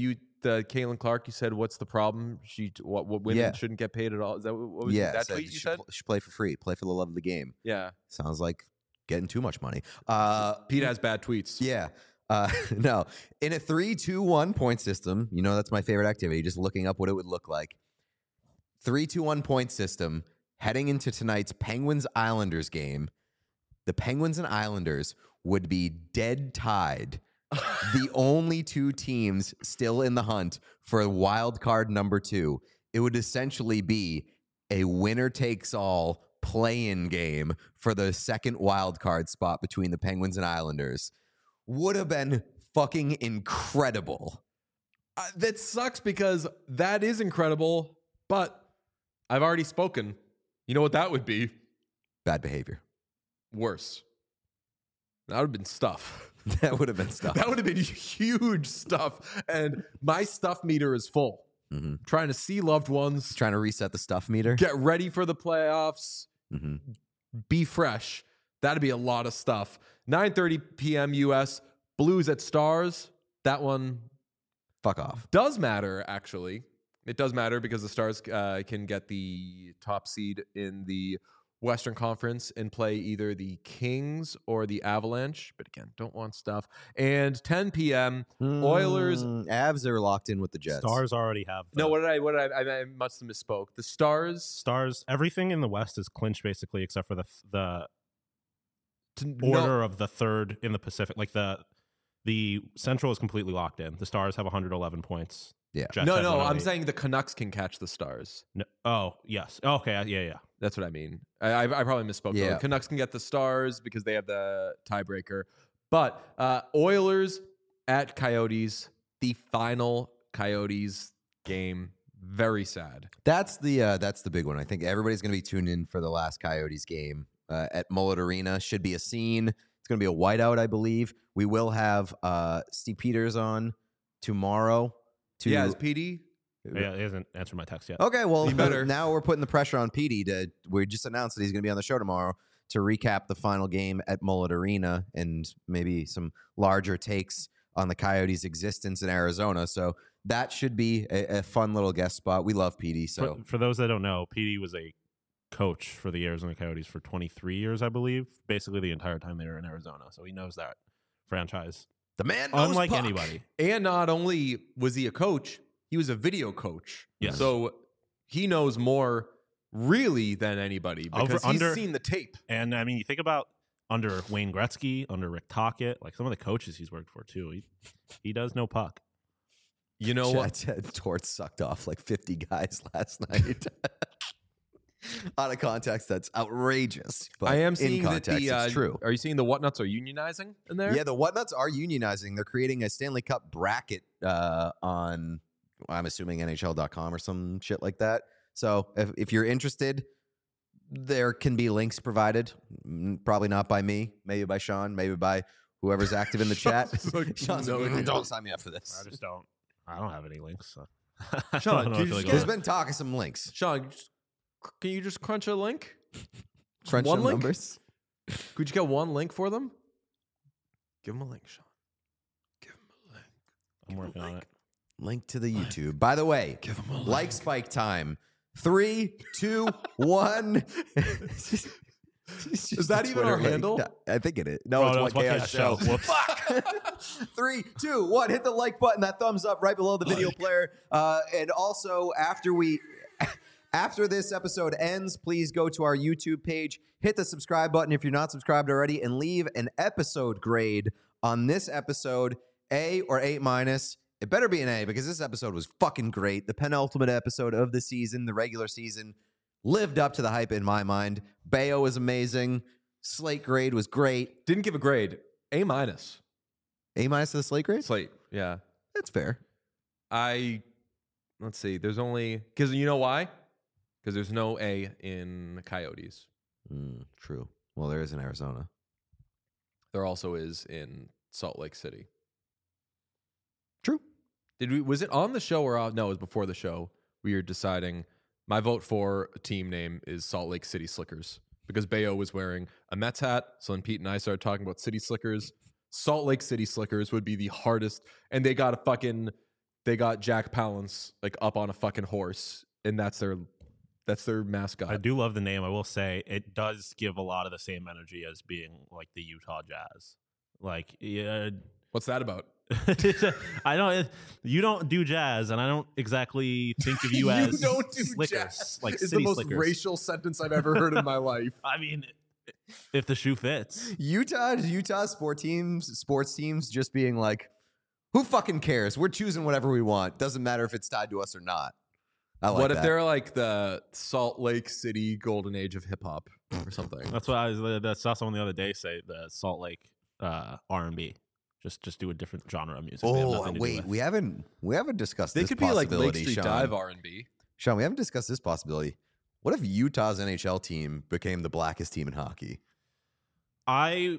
the Caitlin Clark, you said, what's the problem? She what, what women Yeah. shouldn't get paid at all? Is that what was yeah, that said tweet you she said? pl- should play for free. Play for the love of the game. Yeah. Sounds like getting too much money. Uh, Pete has bad tweets. Yeah. Uh, no. In a three two one point system, you know that's my favorite activity, just looking up what it would look like. three two one point system, heading into tonight's Penguins-Islanders game, the Penguins and Islanders would be dead tied. The only two teams still in the hunt for wild card number two. It would essentially be a winner-takes-all play-in game for the second wild card spot between the Penguins and Islanders. Would have been fucking incredible. Uh, that sucks because that is incredible, but I've already spoken. You know what that would be? Bad behavior. Worse. That would have been stuff. That would have been stuff. That would have been huge stuff. And my stuff meter is full. Mm-hmm. Trying to see loved ones. Trying to reset the stuff meter. Get ready for the playoffs. Mm-hmm. Be fresh. That'd be a lot of stuff. nine thirty p.m. U S. Blues at Stars. That one Fuck off. does matter, actually. It does matter because the Stars uh, can get the top seed in the Western Conference and play either the Kings or the Avalanche. But again, don't want stuff. And ten p.m. Oilers. Mm, Avs are locked in with the Jets. Stars already have. The No, what did I? What did I? I, I must have misspoke. The Stars. Stars. Everything in the West is clinched basically, except for the the To, order no, of the third in the Pacific. Like the the Central is completely locked in. The Stars have one hundred eleven points. Yeah. Jets no, have no. I'm one oh eight. saying the Canucks can catch the Stars. No, oh yes. Okay. Yeah. Yeah. That's what I mean. I, I, I probably misspoke. Yeah. The Canucks can get the Stars because they have the tiebreaker. But uh, Oilers at Coyotes, the final Coyotes game. Very sad. That's the uh, that's the big one. I think everybody's going to be tuned in for the last Coyotes game uh, at Mullet Arena. Should be a scene. It's going to be a whiteout, I believe. We will have uh, Steve Peters on tomorrow. To Yeah, is P D? Yeah. He hasn't answered my text yet. Okay, well, He better. now we're putting the pressure on Petey to. We just announced that he's going to be on the show tomorrow to recap the final game at Mullet Arena and maybe some larger takes on the Coyotes' existence in Arizona. So that should be a, a fun little guest spot. We love Petey. So For, for those that don't know, P D was a coach for the Arizona Coyotes for twenty-three years, I believe, basically the entire time they were in Arizona. So he knows that franchise. the man, knows Unlike puck. anybody. And not only was he a coach, he was a video coach. Yes. So he knows more really than anybody because Over- he's under- seen the tape. And I mean, you think about under Wayne Gretzky, under Rick Tocchet, like some of the coaches he's worked for too. He he does know puck. You know what? Ted Torts sucked off like fifty guys last night. Out of context, that's outrageous. But I am in seeing that context, the. Uh, it's true. Are you seeing the Whatnuts are unionizing in there? Yeah, the Whatnuts are unionizing. They're creating a Stanley Cup bracket uh, on, I'm assuming N H L dot com or some shit like that. So if, if you're interested, there can be links provided. Mm, Probably not by me, maybe by Sean, maybe by whoever's active in the chat. Sean's like, Sean's no, like, "Mm, dude." don't sign me up for this. I just don't. I don't have any links. So. Sean, I don't know can if you I just go There's on. been talk of some links. Sean, just- can you just crunch a link? Crunch One some link? numbers. Could you get one link for them? Give them a link, Sean. Give them a link. I'm working on it. Link to the YouTube. By the way, like Spike time. Three, two, one. Is that even our handle? I think it is. No, Oh, it's no, One it's One Chaos Chaos Show. Show. Whoops. Three, two, one. Hit the like button. That thumbs up right below the video player. Uh, and also, after we, after this episode ends, please go to our YouTube page, hit the subscribe button if you're not subscribed already, and leave an episode grade on this episode, A or A minus. It better be an A because this episode was fucking great. The penultimate episode of the season, the regular season, lived up to the hype in my mind. Bayo was amazing. Slate grade was great. Didn't give a grade. A minus. A minus to the slate grade? Slate. Yeah. That's fair. I let's see. There's only because you know why? Because there's no A in Coyotes. Mm, true. Well, there is in Arizona. There also is in Salt Lake City. True. Did we? Was it on the show or off? No, it was before the show. We were deciding. My vote for a team name is Salt Lake City Slickers because Bayo was wearing a Mets hat. So then Pete and I started talking about City Slickers. Salt Lake City Slickers would be the hardest, and they got a fucking they got Jack Palance like up on a fucking horse, and that's their that's their mascot. I do love the name. I will say it does give a lot of the same energy as being like the Utah Jazz. Like, yeah, What's that about? I don't. You don't do jazz, and I don't exactly think of you, as don't do slickers, jazz. like It's the city most slickers. racial sentence I've ever heard in my life. I mean, if the shoe fits. Utah, Utah sport teams, sports teams just being like, who fucking cares? We're choosing whatever we want. Doesn't matter if it's tied to us or not. I like what that. if they're like the Salt Lake City golden age of hip hop or something? That's what I was. I saw someone the other day say the Salt Lake uh, R and B. Just, just do a different genre of music. They have Oh nothing to do wait, with. we haven't we haven't discussed. They this could be like Lake possibility, Street Sean. Dive R and B. Sean, we haven't discussed this possibility. What if Utah's N H L team became the blackest team in hockey? I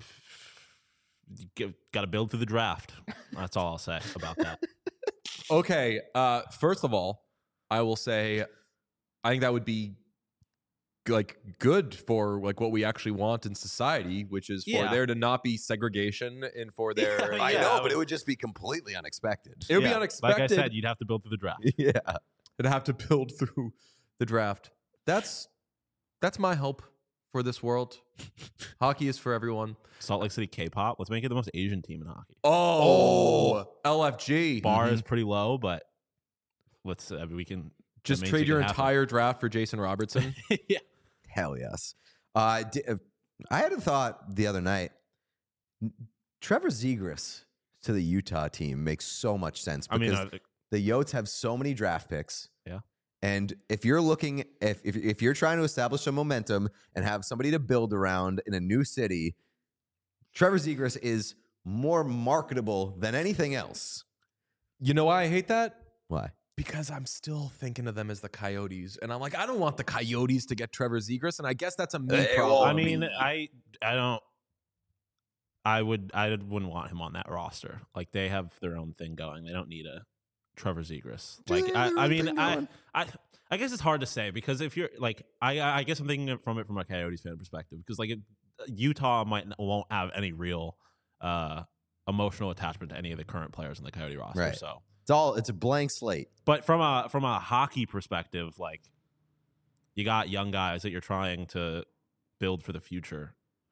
got to build through the draft. That's all I'll say about that. Okay, uh, first of all, I will say, I think that would be like good for like what we actually want in society, which is for Yeah. there to not be segregation and for there. Yeah, I yeah, know, I but would- it would just be completely unexpected. It would Yeah, be unexpected. Like I said, you'd have to build through the draft. yeah. It'd have to build through the draft. That's that's my hope for this world. Hockey is for everyone. Salt Lake City K-pop. Let's make it the most Asian team in hockey. Oh, L F G. Bar is pretty low, but let's. I mean, we can Just that means trade it your can happen. entire draft for Jason Robertson. Yeah. Hell yes. Uh, di- uh, I had a thought the other night. N- Trevor Zegras to the Utah team makes so much sense I because mean, uh, the Yotes have so many draft picks. Yeah. And if you're looking, if, if if you're trying to establish some momentum and have somebody to build around in a new city, Trevor Zegras is more marketable than anything else. You know why I hate that? Why? Because I'm still thinking of them as the Coyotes, and I'm like, I don't want the Coyotes to get Trevor Zegras, and I guess that's a me Hey, problem. well, I mean, I I don't. I would I wouldn't want him on that roster. Like they have their own thing going. They don't need a Trevor Zegras. Do Like they I, have their I own mean, thing I, going? I I guess it's hard to say because if you're like I I guess I'm thinking it from it from a Coyotes fan perspective because like it, Utah might won't have any real uh, emotional attachment to any of the current players in the Coyote roster. Right. So, It's all it's a blank slate. but from a from a hockey perspective, like you got young guys that you're trying to build for the future.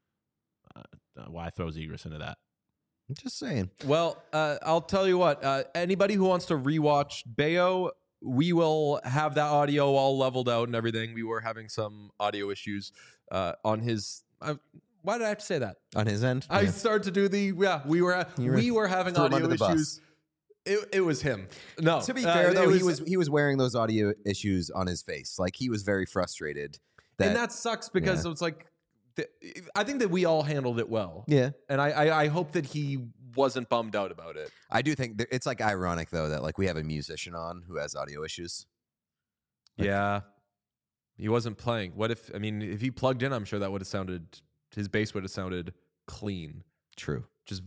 Uh, why throw Zegras into that? I'm just saying. Well, uh, I'll tell you what. Uh, anybody who wants to rewatch Bayo, we will have that audio all leveled out and everything. We were having some audio issues uh, on his. Uh, why did I have to say that? On his end, I Yeah. started to do the. Yeah, we were You were- we were having threw him audio under the bus. issues. It, it was him. No, To be uh, fair, it though, he was he was wearing those audio issues on his face. Like he was very frustrated. That, and that sucks because yeah. it's like. th- I think that we all handled it well. yeah, And I, I, I hope that he wasn't bummed out about it. I do think that it's like ironic though that like we have a musician on who has audio issues. Like- Yeah. He wasn't playing. What if, I mean, if he plugged in, I'm sure that would have sounded, his bass would have sounded clean. True. Just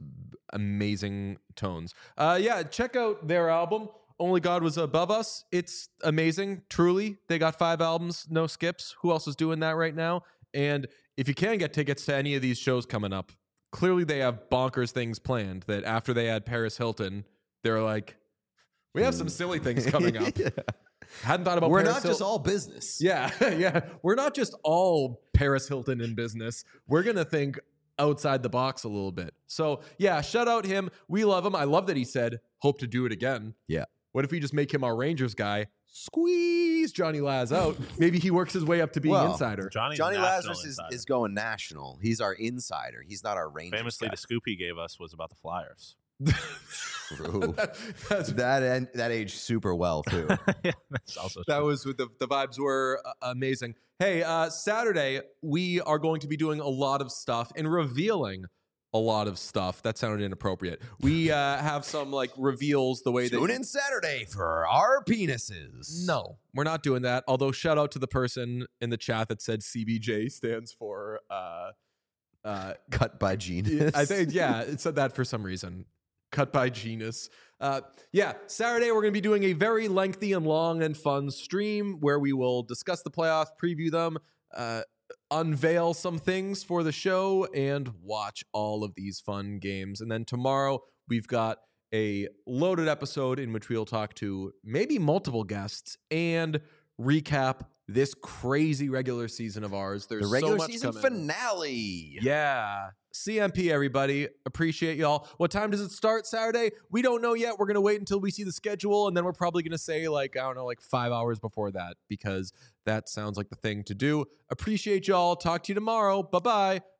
amazing tones. Uh, yeah, check out their album, Only God Was Above Us. It's amazing, truly. They got five albums, no skips. Who else is doing that right now? And if you can get tickets to any of these shows coming up, clearly they have bonkers things planned that after they had Paris Hilton, they're like, we have some silly things coming up. Yeah. Hadn't thought about We're Paris not Hil- just all business. Yeah, yeah. We're not just all Paris Hilton in business. We're going to think outside the box a little bit. So, yeah, shout out him. We love him. I love that he said, hope to do it again. Yeah. What if we just make him our Rangers guy? Squeeze Johnny Laz out. Maybe he works his way up to being Well, insider. Johnny's Johnny a national Lazarus is, insider. is going national. He's our insider. He's not our Rangers Famously, guy. the scoop he gave us was about the Flyers. True. That's- that en- that aged super well too. Yeah, that's also That true. was with the, the vibes were uh, amazing. Hey, uh, Saturday, we are going to be doing a lot of stuff and revealing a lot of stuff. That sounded inappropriate. We uh, have some like reveals the way Tune that in Saturday for our penises. No, we're not doing that. Although shout out to the person in the chat that said C B J stands for uh uh Cut by genius. I think yeah, it said that for some reason. Cut by Genus. Uh, yeah, Saturday we're going to be doing a very lengthy and long and fun stream where we will discuss the playoffs, preview them, uh, unveil some things for the show, and watch all of these fun games. And then tomorrow we've got a loaded episode in which we'll talk to maybe multiple guests and recap this crazy regular season of ours. There's The regular so much season coming. finale. Yeah. C M P, everybody. Appreciate y'all. What time does it start Saturday? We don't know yet. We're going to wait until we see the schedule, and then we're probably going to say, like, I don't know, like five hours before that, because that sounds like the thing to do. Appreciate y'all. Talk to you tomorrow. Bye-bye.